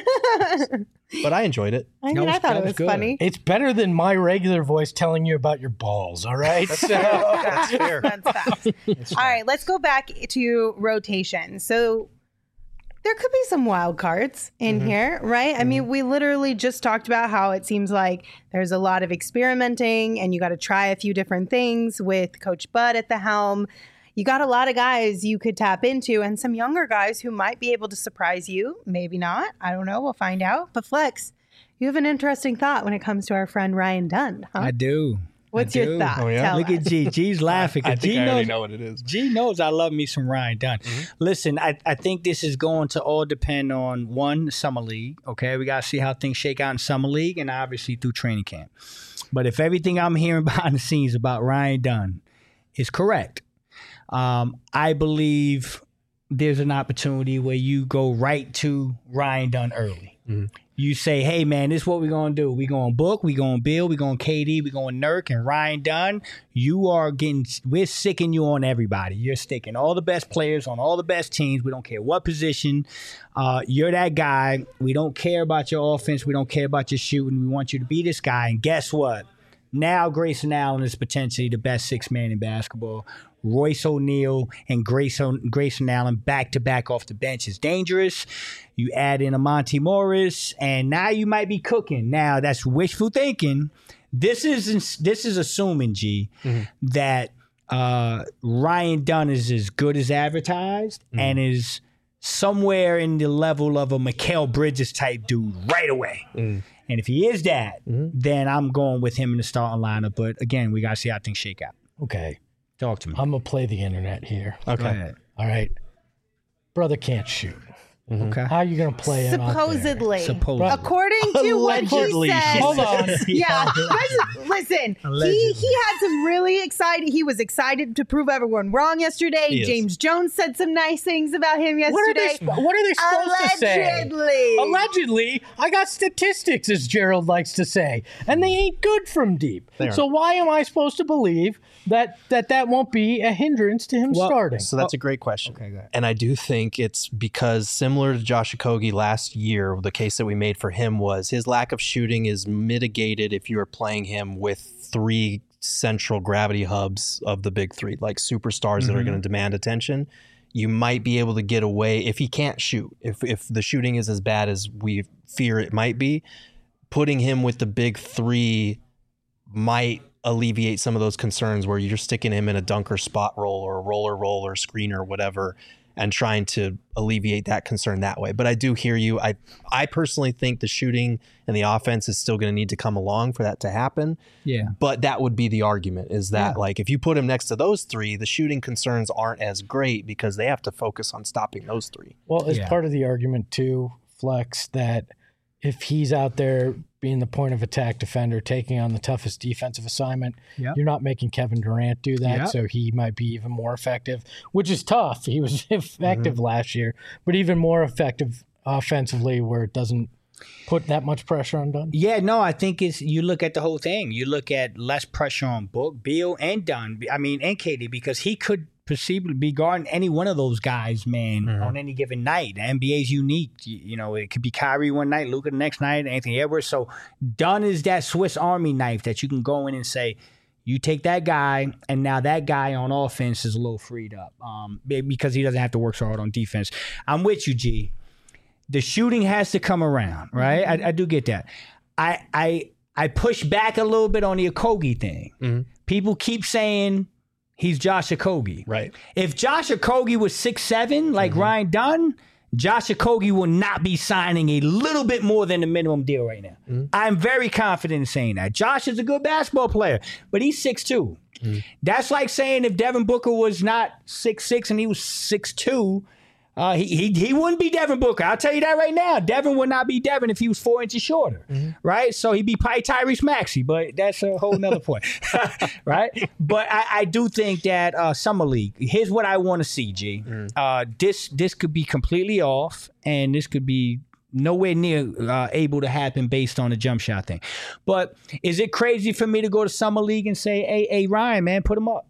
But I enjoyed it. I mean, That was- I thought that it was was good. funny. It's better than my regular voice telling you about your balls, all right? So, That's fair. That's facts. All right, let's go back to rotation. So there could be some wild cards in here, right? I mean, we literally just talked about how it seems like there's a lot of experimenting and you got to try a few different things with Coach Bud at the helm. You got a lot of guys you could tap into and some younger guys who might be able to surprise you. Maybe not. I don't know. We'll find out. But Flex, you have an interesting thought when it comes to our friend Ryan Dunn, huh? I do. What's I your do. thought? Oh, yeah? Tell Look us. at G. G's laughing. 'cause I think G I already knows, know what it is. G knows I love me some Ryan Dunn. Listen, I, I think this is going to all depend on one, Summer League. Okay, we got to see how things shake out in Summer League and obviously through training camp. But if everything I'm hearing behind the scenes about Ryan Dunn is correct, um, I believe there's an opportunity where you go right to Ryan Dunn early. Mhm. You say, hey, man, this is what we're going to do. We're going to book, we're going to build, we're going to K D, we're going to Nurk, and Ryan Dunn, you are getting, we're sicking you on everybody. You're sticking all the best players on all the best teams. We don't care what position. Uh, you're that guy. We don't care about your offense. We don't care about your shooting. We want you to be this guy. And guess what? Now Grayson Allen is potentially the best six man in basketball. Royce O'Neal and Grayson, Grayson Allen back to back off the bench is dangerous. You add in a Monty Morris, and now you might be cooking. Now that's wishful thinking. This is this is assuming, G, mm-hmm. that uh, Ryan Dunn is as good as advertised mm-hmm. and is somewhere in the level of a Mikal Bridges type dude right away. Mm-hmm. And if he is that, mm-hmm. then I'm going with him in the starting lineup. But again, we got to see how things shake out. Okay. Talk to me. I'm going to play the internet here. Okay. All right. Brother can't shoot. Mm-hmm. Okay. How are you going to play him Supposedly. Supposedly. According to what he said. Hold on. Yeah. Listen, he, he had some really excited. He was excited to prove everyone wrong yesterday. He James is. Jones said some nice things about him What are yesterday. they, what are they supposed to say? Allegedly. Allegedly. I got statistics, as Gerald likes to say, and they ain't good from deep. So why am I supposed to believe that that, that won't be a hindrance to him Well, starting? So that's a great question. Okay, go ahead. And I do think it's because similar to Josh Okogie last year, the case that we made for him was his lack of shooting is mitigated if you are playing him with three central gravity hubs of the big three, like superstars mm-hmm. that are going to demand attention. You might be able to get away if he can't shoot. If if the shooting is as bad as we fear it might be, putting him with the big three might alleviate some of those concerns where you're sticking him in a dunker spot roll or a roller roll or screen or whatever and trying to alleviate that concern that way. But I do hear you. I I personally think the shooting and the offense is still going to need to come along for that to happen. Yeah. But that would be the argument is that Yeah. like if you put him next to those three, the shooting concerns aren't as great because they have to focus on stopping those three. Well, as Yeah. part of the argument too, Flex, that if he's out there being the point of attack defender, taking on the toughest defensive assignment, Yep. you're not making Kevin Durant do that, Yep. so he might be even more effective, which is tough. He was effective Mm-hmm. last year, but even more effective offensively where it doesn't put that much pressure on Dunn. Yeah, no, I think it's you look at the whole thing. You look at less pressure on Book, Beal, and Dunn. I mean, and K D because he could perceivably be guarding any one of those guys, man, Mhm. on any given night. The N B A is unique. You, you know, it could be Kyrie one night, Luka the next night, Anthony Edwards. So Dunn is that Swiss Army knife that you can go in and say, you take that guy, and now that guy on offense is a little freed up um, because he doesn't have to work so hard on defense. I'm with you, G. The shooting has to come around, right? I, I do get that. I I I push back a little bit on the Okogie thing. Mhm. People keep saying he's Josh Okogie. Right. If Josh Okogie was six seven, like Mm-hmm. Ryan Dunn, Josh Okogie will not be signing a little bit more than the minimum deal right now. Mm-hmm. I'm very confident in saying that. Josh is a good basketball player, but he's six two. Mm-hmm. That's like saying if Devin Booker was not six six and he was six two, uh, he, he he wouldn't be Devin Booker. I'll tell you that right now. Devin would not be Devin if he was four inches shorter, Mm-hmm. right? So he'd be probably Tyrese Maxey, but that's a whole nother point, right? But I, I do think that uh, Summer League, here's what I want to see, G. Mm-hmm. Uh, this, this could be completely off, and this could be nowhere near uh, able to happen based on the jump shot thing. But is it crazy for me to go to Summer League and say, hey, hey Ryan, man, put him up?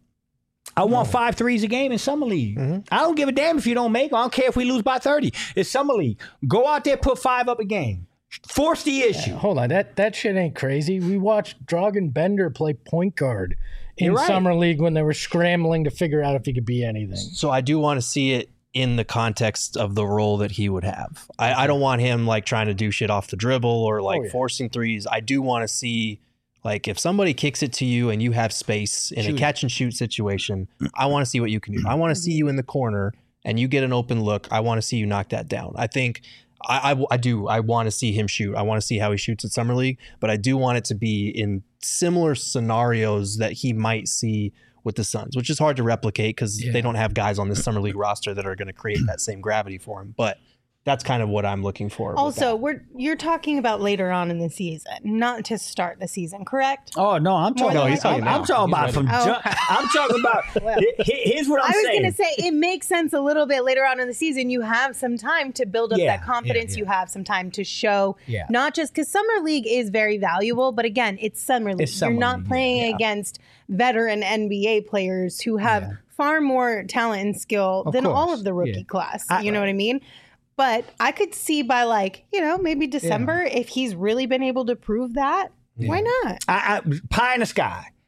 I want five threes a game in Summer League. Mm-hmm. I don't give a damn if you don't make. I don't care if we lose by thirty. It's Summer League. Go out there, put five up a game. Force the issue. Hold on, that that shit ain't crazy. We watched Dragan Bender play point guard in You're right. Summer League when they were scrambling to figure out if he could be anything. So I do want to see it in the context of the role that he would have. I, I don't want him like trying to do shit off the dribble or like Oh, yeah. forcing threes. I do want to see like if somebody kicks it to you and you have space in Shoot a it. catch and shoot situation, I want to see what you can do. I want to see you in the corner and you get an open look. I want to see you knock that down. I think I, I, I do. I want to see him shoot. I want to see how he shoots at Summer League, but I do want it to be in similar scenarios that he might see with the Suns, which is hard to replicate because Yeah. they don't have guys on this Summer League roster that are going to create that same gravity for him. But that's kind of what I'm looking for. with Also, that. we're you're talking about later on in the season, not to start the season, correct? Oh no, I'm talking. No, he's I'm, talking I'm now. talking He's about ready. from. Oh, ju- okay. I'm talking about. he- he- Here's what I'm I was saying. going to say it makes sense a little bit later on in the season. You have some time to build up Yeah, that confidence. yeah, yeah. You have some time to show, Yeah. not just because Summer League is very valuable, but again, it's Summer League. It's Summer You're not League, playing yeah, yeah. against veteran N B A players who have Yeah. far more talent and skill Of than all course, of the rookie yeah. class. I- you know what I mean? But I could see by like, you know, maybe December, if he's really been able to prove that, why not? I, I, pie in the sky.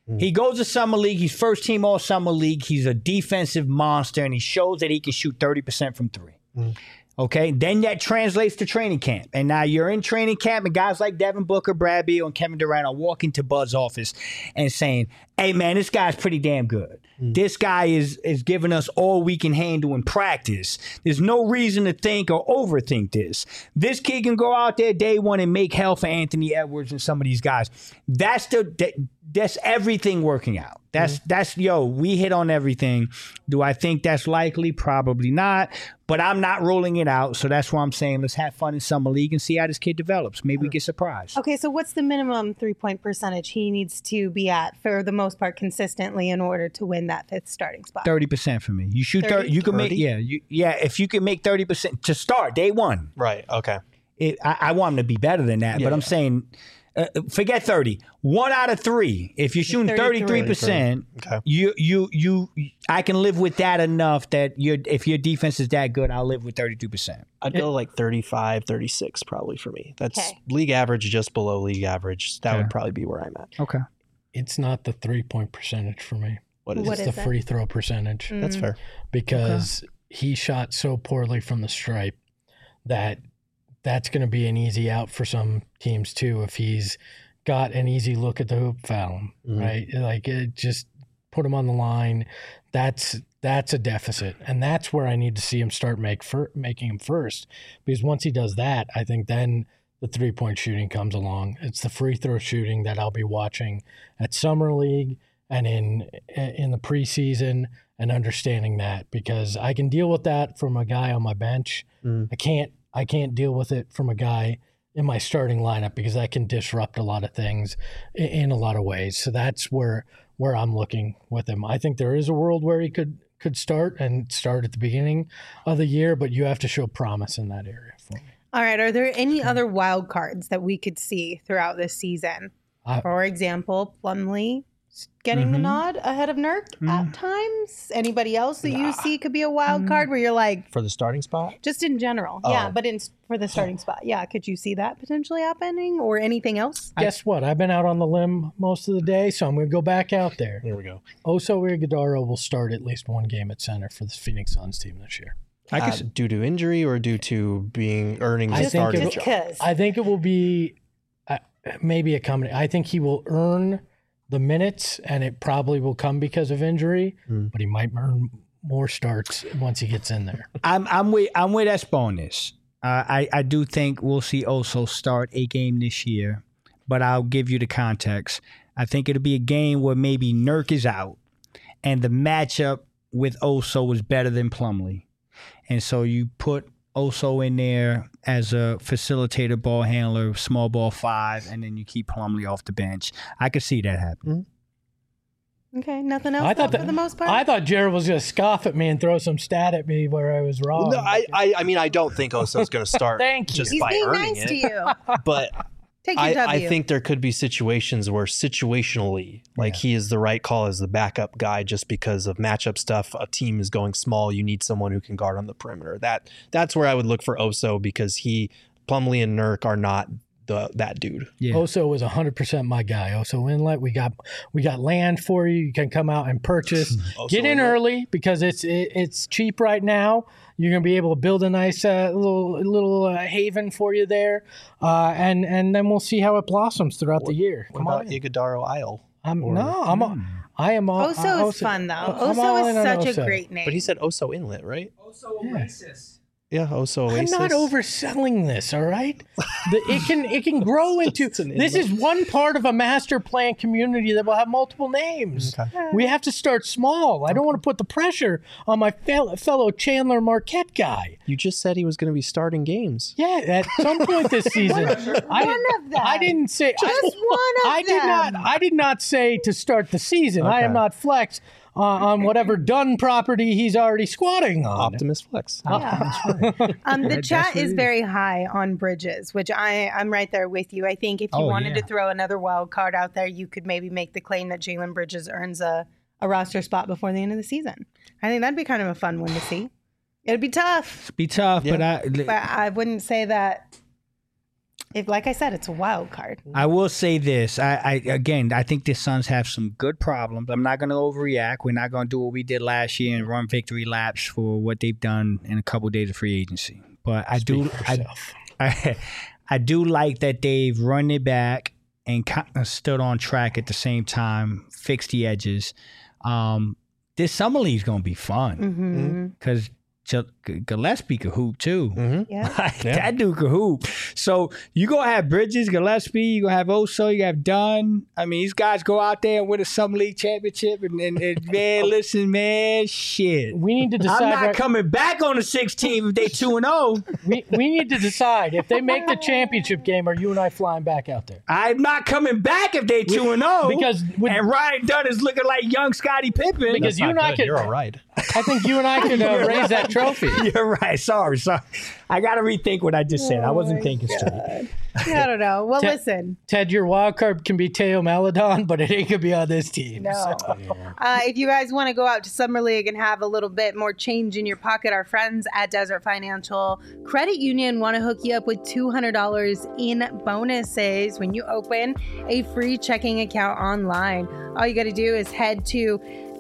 He goes to Summer League. He's first team all Summer League. He's a defensive monster, and he shows that he can shoot thirty percent from three. Mm. Okay, then that translates to training camp. And now you're in training camp, and guys like Devin Booker, Brad Beal, and Kevin Durant are walking to Bud's office and saying, hey, man, this guy's pretty damn good. Mm. This guy is is giving us all we can handle in practice. There's no reason to think or overthink this. This kid can go out there day one and make hell for Anthony Edwards and some of these guys. That's the that, that's everything working out. That's, mm-hmm. that's, yo, we hit on everything. Do I think that's likely? Probably not. But I'm not ruling it out. So that's why I'm saying let's have fun in Summer League and see how this kid develops. Maybe we get surprised. Okay, so what's the minimum three-point percentage he needs to be at for the most part consistently in order to win that fifth starting spot? thirty percent for me. You shoot thirty. You can make, yeah, you, yeah, if you can make thirty percent to start day one. Right, okay. It, I, I want him to be better than that, yeah, but I'm yeah. saying uh, forget thirty. One out of three. If you're shooting thirty-three percent, okay. you you you I can live with that enough that your if your defense is that good, I'll live with thirty-two percent. I'd go like thirty-five, thirty-six probably for me. That's okay. League average, just below league average. That okay. would probably be where I'm at. Okay. It's not the three-point percentage for me. What is what it? It's the free throw percentage. Mm. That's fair. Because okay. he shot so poorly from the stripe that that's going to be an easy out for some teams too if he's got an easy look at the hoop, foul him, mm-hmm. right? Like it just put him on the line. That's that's a deficit, and that's where I need to see him start make for, making him first. Because once he does that, I think then the three point shooting comes along. It's the free throw shooting that I'll be watching at Summer League and in in the preseason and understanding that, because I can deal with that from a guy on my bench. Mm. I can't I can't deal with it from a guy in my starting lineup because that can disrupt a lot of things in, in a lot of ways. So that's where where I'm looking with him. I think there is a world where he could could start and start at the beginning of the year, but you have to show promise in that area for me. All right. Are there any other wild cards that we could see throughout this season? Uh, For example, Plumlee getting mm-hmm. the nod ahead of Nurk mm. at times. Anybody else that nah. you see could be a wild card where you're like, for the starting spot? Just in general. Oh. Yeah, but in for the starting spot. Yeah, could you see that potentially happening or anything else? Guess what? I've been out on the limb most of the day, so I'm going to go back out there. Here we go. Oso Ighodaro will start at least one game at center for the Phoenix Suns team this year. I guess uh, due to injury or due to being earning the starting job? I think it will be uh, maybe a combination. I think he will earn the minutes, and it probably will come because of injury, mm. but he might earn more starts once he gets in there. I'm I'm with I'm with Espo on this. Uh, I I do think we'll see Oso start a game this year, but I'll give you the context. I think it'll be a game where maybe Nurk is out, and the matchup with Oso is better than Plumlee, and so you put Oso in there as a facilitator, ball handler, small ball five, and then you keep Plumlee off the bench. I could see that happen. Mm-hmm. Okay, nothing else I thought that, for the most part? I thought Jared was going to scoff at me and throw some stat at me where I was wrong. No, I, I, I mean, I don't think Oso's going to start Thank you. just He's by being earning nice it. to you. But Take your I, W. I think there could be situations where situationally, like yeah. he is the right call as the backup guy just because of matchup stuff. A team is going small. You need someone who can guard on the perimeter. That That's where I would look for Oso because he, Plumlee and Nurk are not the that dude. Yeah. Oso was one hundred percent my guy. Oso Inlet, we got we got land for you. You can come out and purchase. Get in Inlet. Early because it's it, it's cheap right now. You're going to be able to build a nice uh, little little uh, haven for you there, uh, and and then we'll see how it blossoms throughout what, the year. What Come about on, Ighodaro Isle? I'm or, no, I'm a, I am all. Oso uh, is Oso, fun though. I'm Oso is such Oso. a great name. But he said Oso Inlet, right? Oso Oasis. Yeah, Oso Oasis. I'm not overselling this, all right? The, it can it can grow into. This is one part of a master plan community that will have multiple names. Okay. We have to start small. I don't want to put the pressure on my fellow, fellow Chandler Marquette guy. You just said he was going to be starting games. Yeah, at some point this season. one I of them. I didn't say just I, one of I them. did not. I did not say to start the season. Okay. I am not Flex. Uh, on whatever Dunn property he's already squatting on. Optimus Flex. Yeah. um, the chat is very high on Bridges, which I, I'm right there with you. I think if you oh, wanted yeah. to throw another wild card out there, you could maybe make the claim that Jalen Bridges earns a, a roster spot before the end of the season. I think that'd be kind of a fun one to see. It'd be tough. It'd be tough, yeah. but I... But I wouldn't say that If, like I said, it's a wild card. I will say this. I, I again, I think the Suns have some good problems. I'm not going to overreact. We're not going to do what we did last year and run victory laps for what they've done in a couple of days of free agency. But I Speak do, for I, yourself. I, I do like that they've run it back and kind of stood on track at the same time, fixed the edges. Um, this summer league is going to be fun because Gillespie could hoop too. Mm-hmm. Yeah. Like, Yeah. That dude could hoop. So you gonna have Bridges, Gillespie, you gonna have Oso, you have Dunn. I mean, these guys go out there and win a summer league championship, and, and, and man, listen, man, shit. We need to decide. I'm not right- coming back on the sixteenth if they two and zero. we, we need to decide if they make the championship game, are you and I flying back out there? I'm not coming back if they two and zero. Because with- and Ryan Dunn is looking like young Scottie Pippen. Because you and I could, You're all right. I think you and I could uh, raise that trophy. You're right. Sorry, sorry. I got to rethink what I just said. I wasn't thinking straight. I don't know. Well, Te- listen. Ted, your wild card can be Teo Maladon, but it ain't gonna be on this team. No. So- Uh, if you guys want to go out to Summer League and have a little bit more change in your pocket, our friends at Desert Financial Credit Union want to hook you up with two hundred dollars in bonuses when you open a free checking account online. All you got to do is head to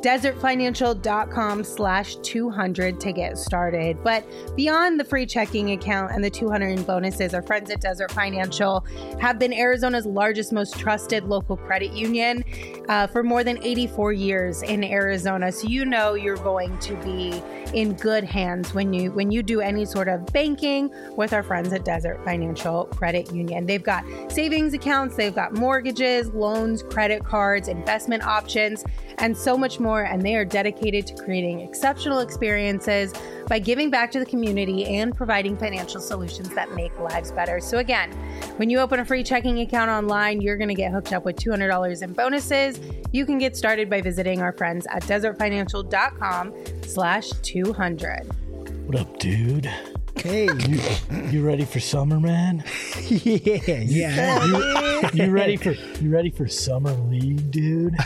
desertfinancial.com slash 200 to get started. But beyond the free checking account and the two hundred in bonuses, our friends at Desert Financial have been Arizona's largest, most trusted local credit union uh, for more than eighty-four years in Arizona. So you know you're going to be in good hands when you when you do any sort of banking with our friends at Desert Financial Credit Union. They've got savings accounts, they've got mortgages, loans, credit cards, investment options, and so much more. And they are dedicated to creating exceptional experiences by giving back to the community and providing financial solutions that make lives better. So again, when you open a free checking account online, you're going to get hooked up with two hundred dollars in bonuses. You can get started by visiting our friends at desertfinancial.com slash 200. What up, dude? Hey, You, you ready for summer, man? yeah, yeah. You, you ready for you ready for summer league, dude?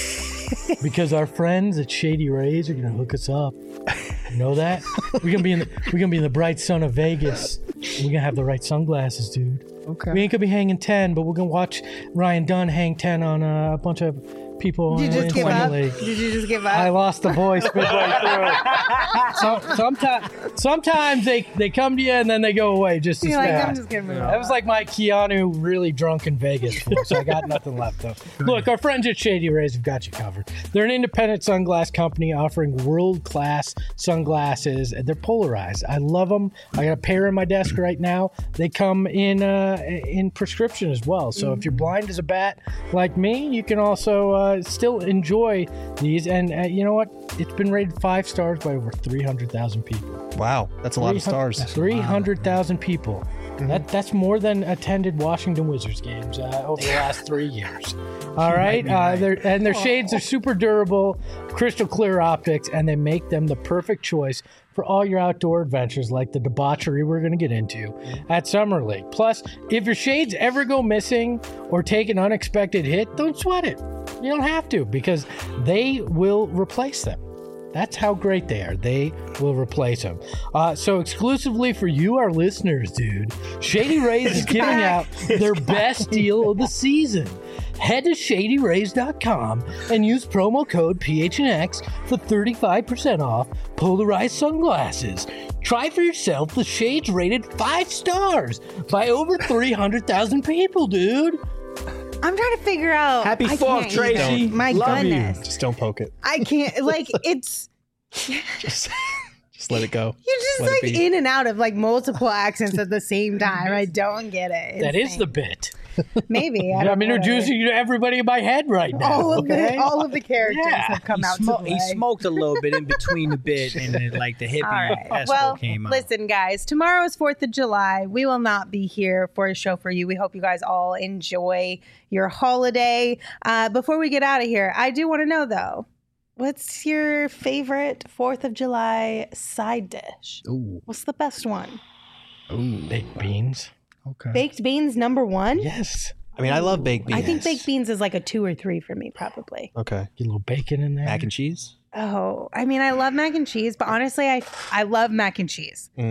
Because our friends at Shady Rays are gonna hook us up. You know that? We're gonna be in the we're gonna be in the bright sun of Vegas. We're gonna have the right sunglasses, dude. Okay. We ain't gonna be hanging ten, but we're gonna watch Ryan Dunn hang ten on uh, a bunch of people. Did you in just give Summer up? League. Did you just give I up? lost the voice midway through. So, sometimes, sometimes they, they come to you and then they go away just as You're like, fast. I'm just going to move That on. was like my Keanu really drunk in Vegas, so I got nothing left though. Look, our friends at Shady Rays have got you covered. They're an independent sunglass company offering world-class sunglasses. They're polarized. I love them. I got a pair in my desk right now. They come in uh, in prescription as well. So if you're blind as a bat like me, you can also uh, still enjoy these. And uh, you know what? It's been rated five stars by over three hundred thousand people. Wow, that's a lot of stars. three hundred thousand people. That that's more than attended Washington Wizards games uh, over the last three years. All right, uh, they're, and their shades are super durable, crystal clear optics, and they make them the perfect choice for all your outdoor adventures, like the debauchery we're going to get into at Summer League. Plus, if your shades ever go missing or take an unexpected hit, don't sweat it. You don't have to, because they will replace them. That's how great they are. They will replace them. Uh, so exclusively for you, our listeners, dude, Shady Rays is giving out their best deal of the season. Head to shady rays dot com and use promo code P H N X for thirty-five percent off polarized sunglasses. Try for yourself the shades rated five stars by over three hundred thousand people, dude. I'm trying to figure out. Happy I Fourth, can't Tracy. even. My Love you. goodness. Just don't poke it. I can't. Like, it's. Just, just let it go. You're just Let it like be. in and out of like multiple accents at the same time. I don't get it. That is Insane. the bit. Maybe. I don't I'm know what it introducing you to everybody in my head right is. now. all of okay? the all of the characters Yeah. have come He, out smo- to he play. smoked a little bit in between the bit, and then like the hippie All right. espo Well, came out. listen, guys. Tomorrow is Fourth of July. We will not be here for a show for you. We hope you guys all enjoy your holiday. Uh, before we get out of here, I do want to know though, what's your favorite Fourth of July side dish? Ooh, What's the best one? ooh, Baked beans. okay. Baked beans number one. Yes. I mean, I love baked beans. I think baked beans is like a two or three for me, probably. Okay. Get a little bacon in there. Mac and cheese? Oh, I mean, I love mac and cheese, but honestly, I I love mac and cheese. Mm.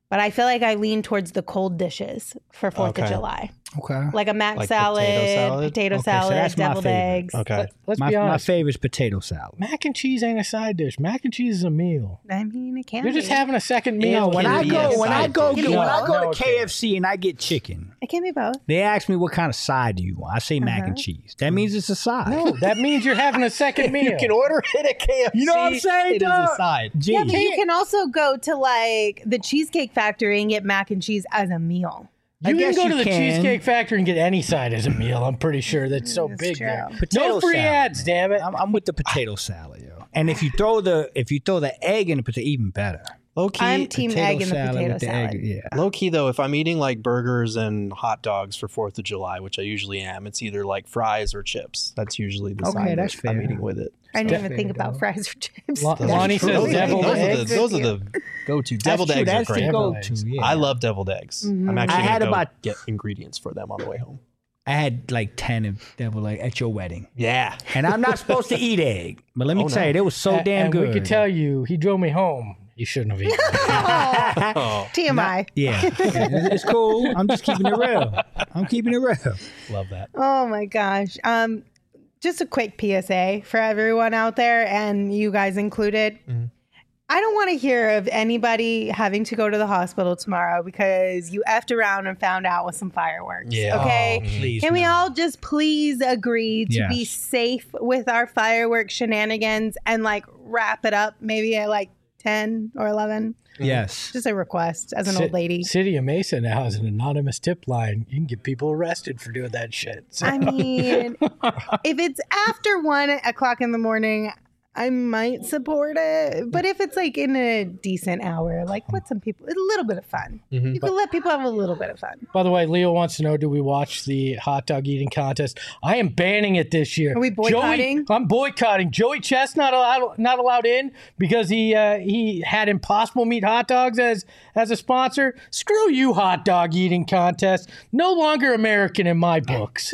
But I feel like I lean towards the cold dishes for Fourth of Okay. July, Okay. like a mac Like salad, potato salad? potato Okay, so salad, that's my deviled favorite. eggs. Okay. Let, let's My, be my honest. favorite is potato salad. Mac and cheese ain't a side dish. Mac and cheese is a meal. I mean, it can. You're just be. having a second meal. Yeah, when can I be go a when I side go dish. get, when I No, go no, to okay. K F C and I get chicken, It can be both. they ask me what kind of side do you want. I say mac and Uh-huh. cheese. That means it's a side. No, that means you're having a second meal. You can order it at K F C. You know what I'm saying, It is dog? a side. Gee. Yeah, but you can also go to like the Cheesecake Factory and get mac and cheese as a meal. I You can guess go you to the can. Cheesecake Factory and get any side as a meal. I'm pretty sure that's so That's big true. there. Potato No free salad. ads, damn it. I'm, I'm with the potato salad, yo. And if you throw the if you throw the egg in the potato, even better. Low key, I'm team Potato egg in the salad potato with the salad. egg, yeah. Low key though, if I'm eating like burgers and hot dogs for Fourth of July, which I usually am, it's either like fries or chips. That's usually the Okay, side that's that I'm fair. eating with it. I didn't So- even think about fries or chips. Lo- That's Lonnie true. says those, are, deviled those, are the, eggs. those are the go-to. Deviled That's true. eggs That's are the great. go-to. Yeah. I love deviled eggs. Mhm. I'm actually I had gonna go about- get ingredients for them on the way home. I had like ten of devil egg at your wedding, Yeah. and I'm not supposed to eat egg, but let me Oh, tell no. you, they was so A- damn and good. we could tell you, he drove me home. You shouldn't have eaten. Oh, T M I. Yeah, it's cool. I'm just keeping it real. I'm keeping it real. love that. Oh my gosh. Um, just a quick P S A for everyone out there, and you guys included. Mhm. I don't want to hear of anybody having to go to the hospital tomorrow because you effed around and found out with some fireworks. Yeah. Okay. Oh, Please, Can we no. all just please agree to be Yes. safe with our fireworks shenanigans and like wrap it up maybe at like ten or eleven? Yes. Just a request as an Ci- old lady. City of Mesa now has an anonymous tip line. You can get people arrested for doing that shit. So- I mean, if it's after one o'clock in the morning, I might support it. But if it's like in a decent hour, like let some people, a little bit of fun. Mhm. You can let people have a little bit of fun. By the way, Leo wants to know, do we watch the hot dog eating contest? I am banning it this year. Are we boycotting? Joey, I'm boycotting. Joey Chest not allowed not allowed in because he uh, he had Impossible Meat hot dogs as as a sponsor. Screw you, hot dog eating contest. No longer American in my books.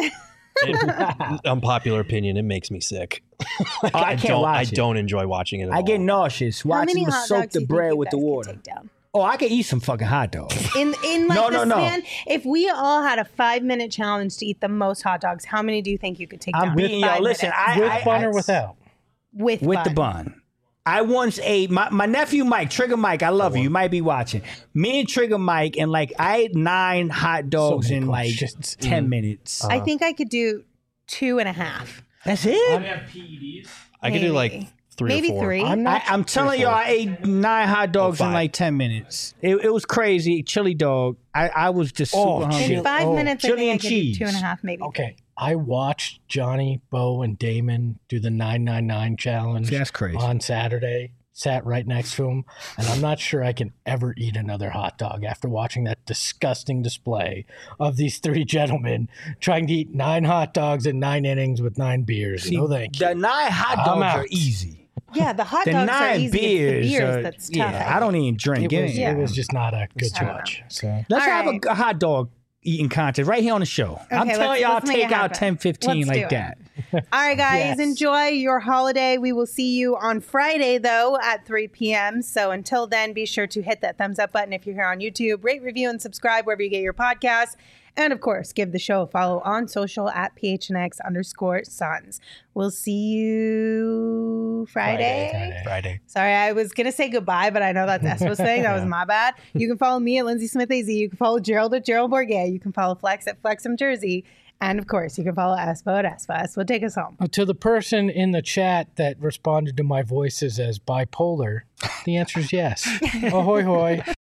Unpopular opinion, it makes me sick. Like, Oh, I can't don't, watch I it. don't enjoy watching it at I all. get nauseous How watching many them hot soak dogs do the you bread think you with the guys could water. take down? Oh, I could eat some fucking hot dogs. In in like No, the no, no. span, if we all had a five minute challenge to eat the most hot dogs, how many do you think you could take I'm down? beating in y'all. five Listen, minutes? I, With I, bun I, or without? with with bun. the bun. I once ate my, my nephew Mike, Trigger Mike. I love you. You might be watching. Me and Trigger Mike, and like I ate nine hot dogs many in like questions. ten minutes. I think I could do two and a half. That's it. have P E Ds. I could do like Maybe. three Maybe or four. three. I'm I, not. I'm telling you, I ate nine hot dogs in five. like ten minutes. It, it was crazy. Chili dog. I, I was just Oh, super In hungry. shit. five Oh, minutes, I chili think I and could do cheese. two and a half, maybe. Okay, I watched Johnny, Bo, and Damon do the nine nine nine challenge See, that's crazy. on Saturday. Sat right next to him, and I'm not sure I can ever eat another hot dog after watching that disgusting display of these three gentlemen trying to eat nine hot dogs in nine innings with nine beers. See, no, thank the you. nine hot I'm dogs out. are easy. Yeah, the hot The dogs are nine easy. beers, it's the beers are, that's tough. yeah, I don't even drink. It Give was, me- it was just not a good I don't watch. So Let's All have right. a, a hot dog eating contest right here on the show. I'm Okay, telling let's- y'all, let's make it take out happen. ten, fifteen Let's like do it. that. All right, guys, Yes. enjoy your holiday. We will see you on Friday, though, at three p.m. So until then, be sure to hit that thumbs up button if you're here on YouTube. Rate, review, and subscribe wherever you get your podcasts. And, of course, give the show a follow on social at P H N X underscore sons. We'll see you Friday. Friday. Friday. Sorry, I was going to say goodbye, but I know that's Espo's thing. That was my bad. You can follow me at Lindsay Smith A Z. You can follow Gerald at Gerald Bourget. You can follow Flex at Flexum Jersey. And, of course, you can follow Espo at Espo. Espo, take us home. Uh, to the person in the chat that responded to my voices as bipolar, the answer is yes. Ahoy, hoy.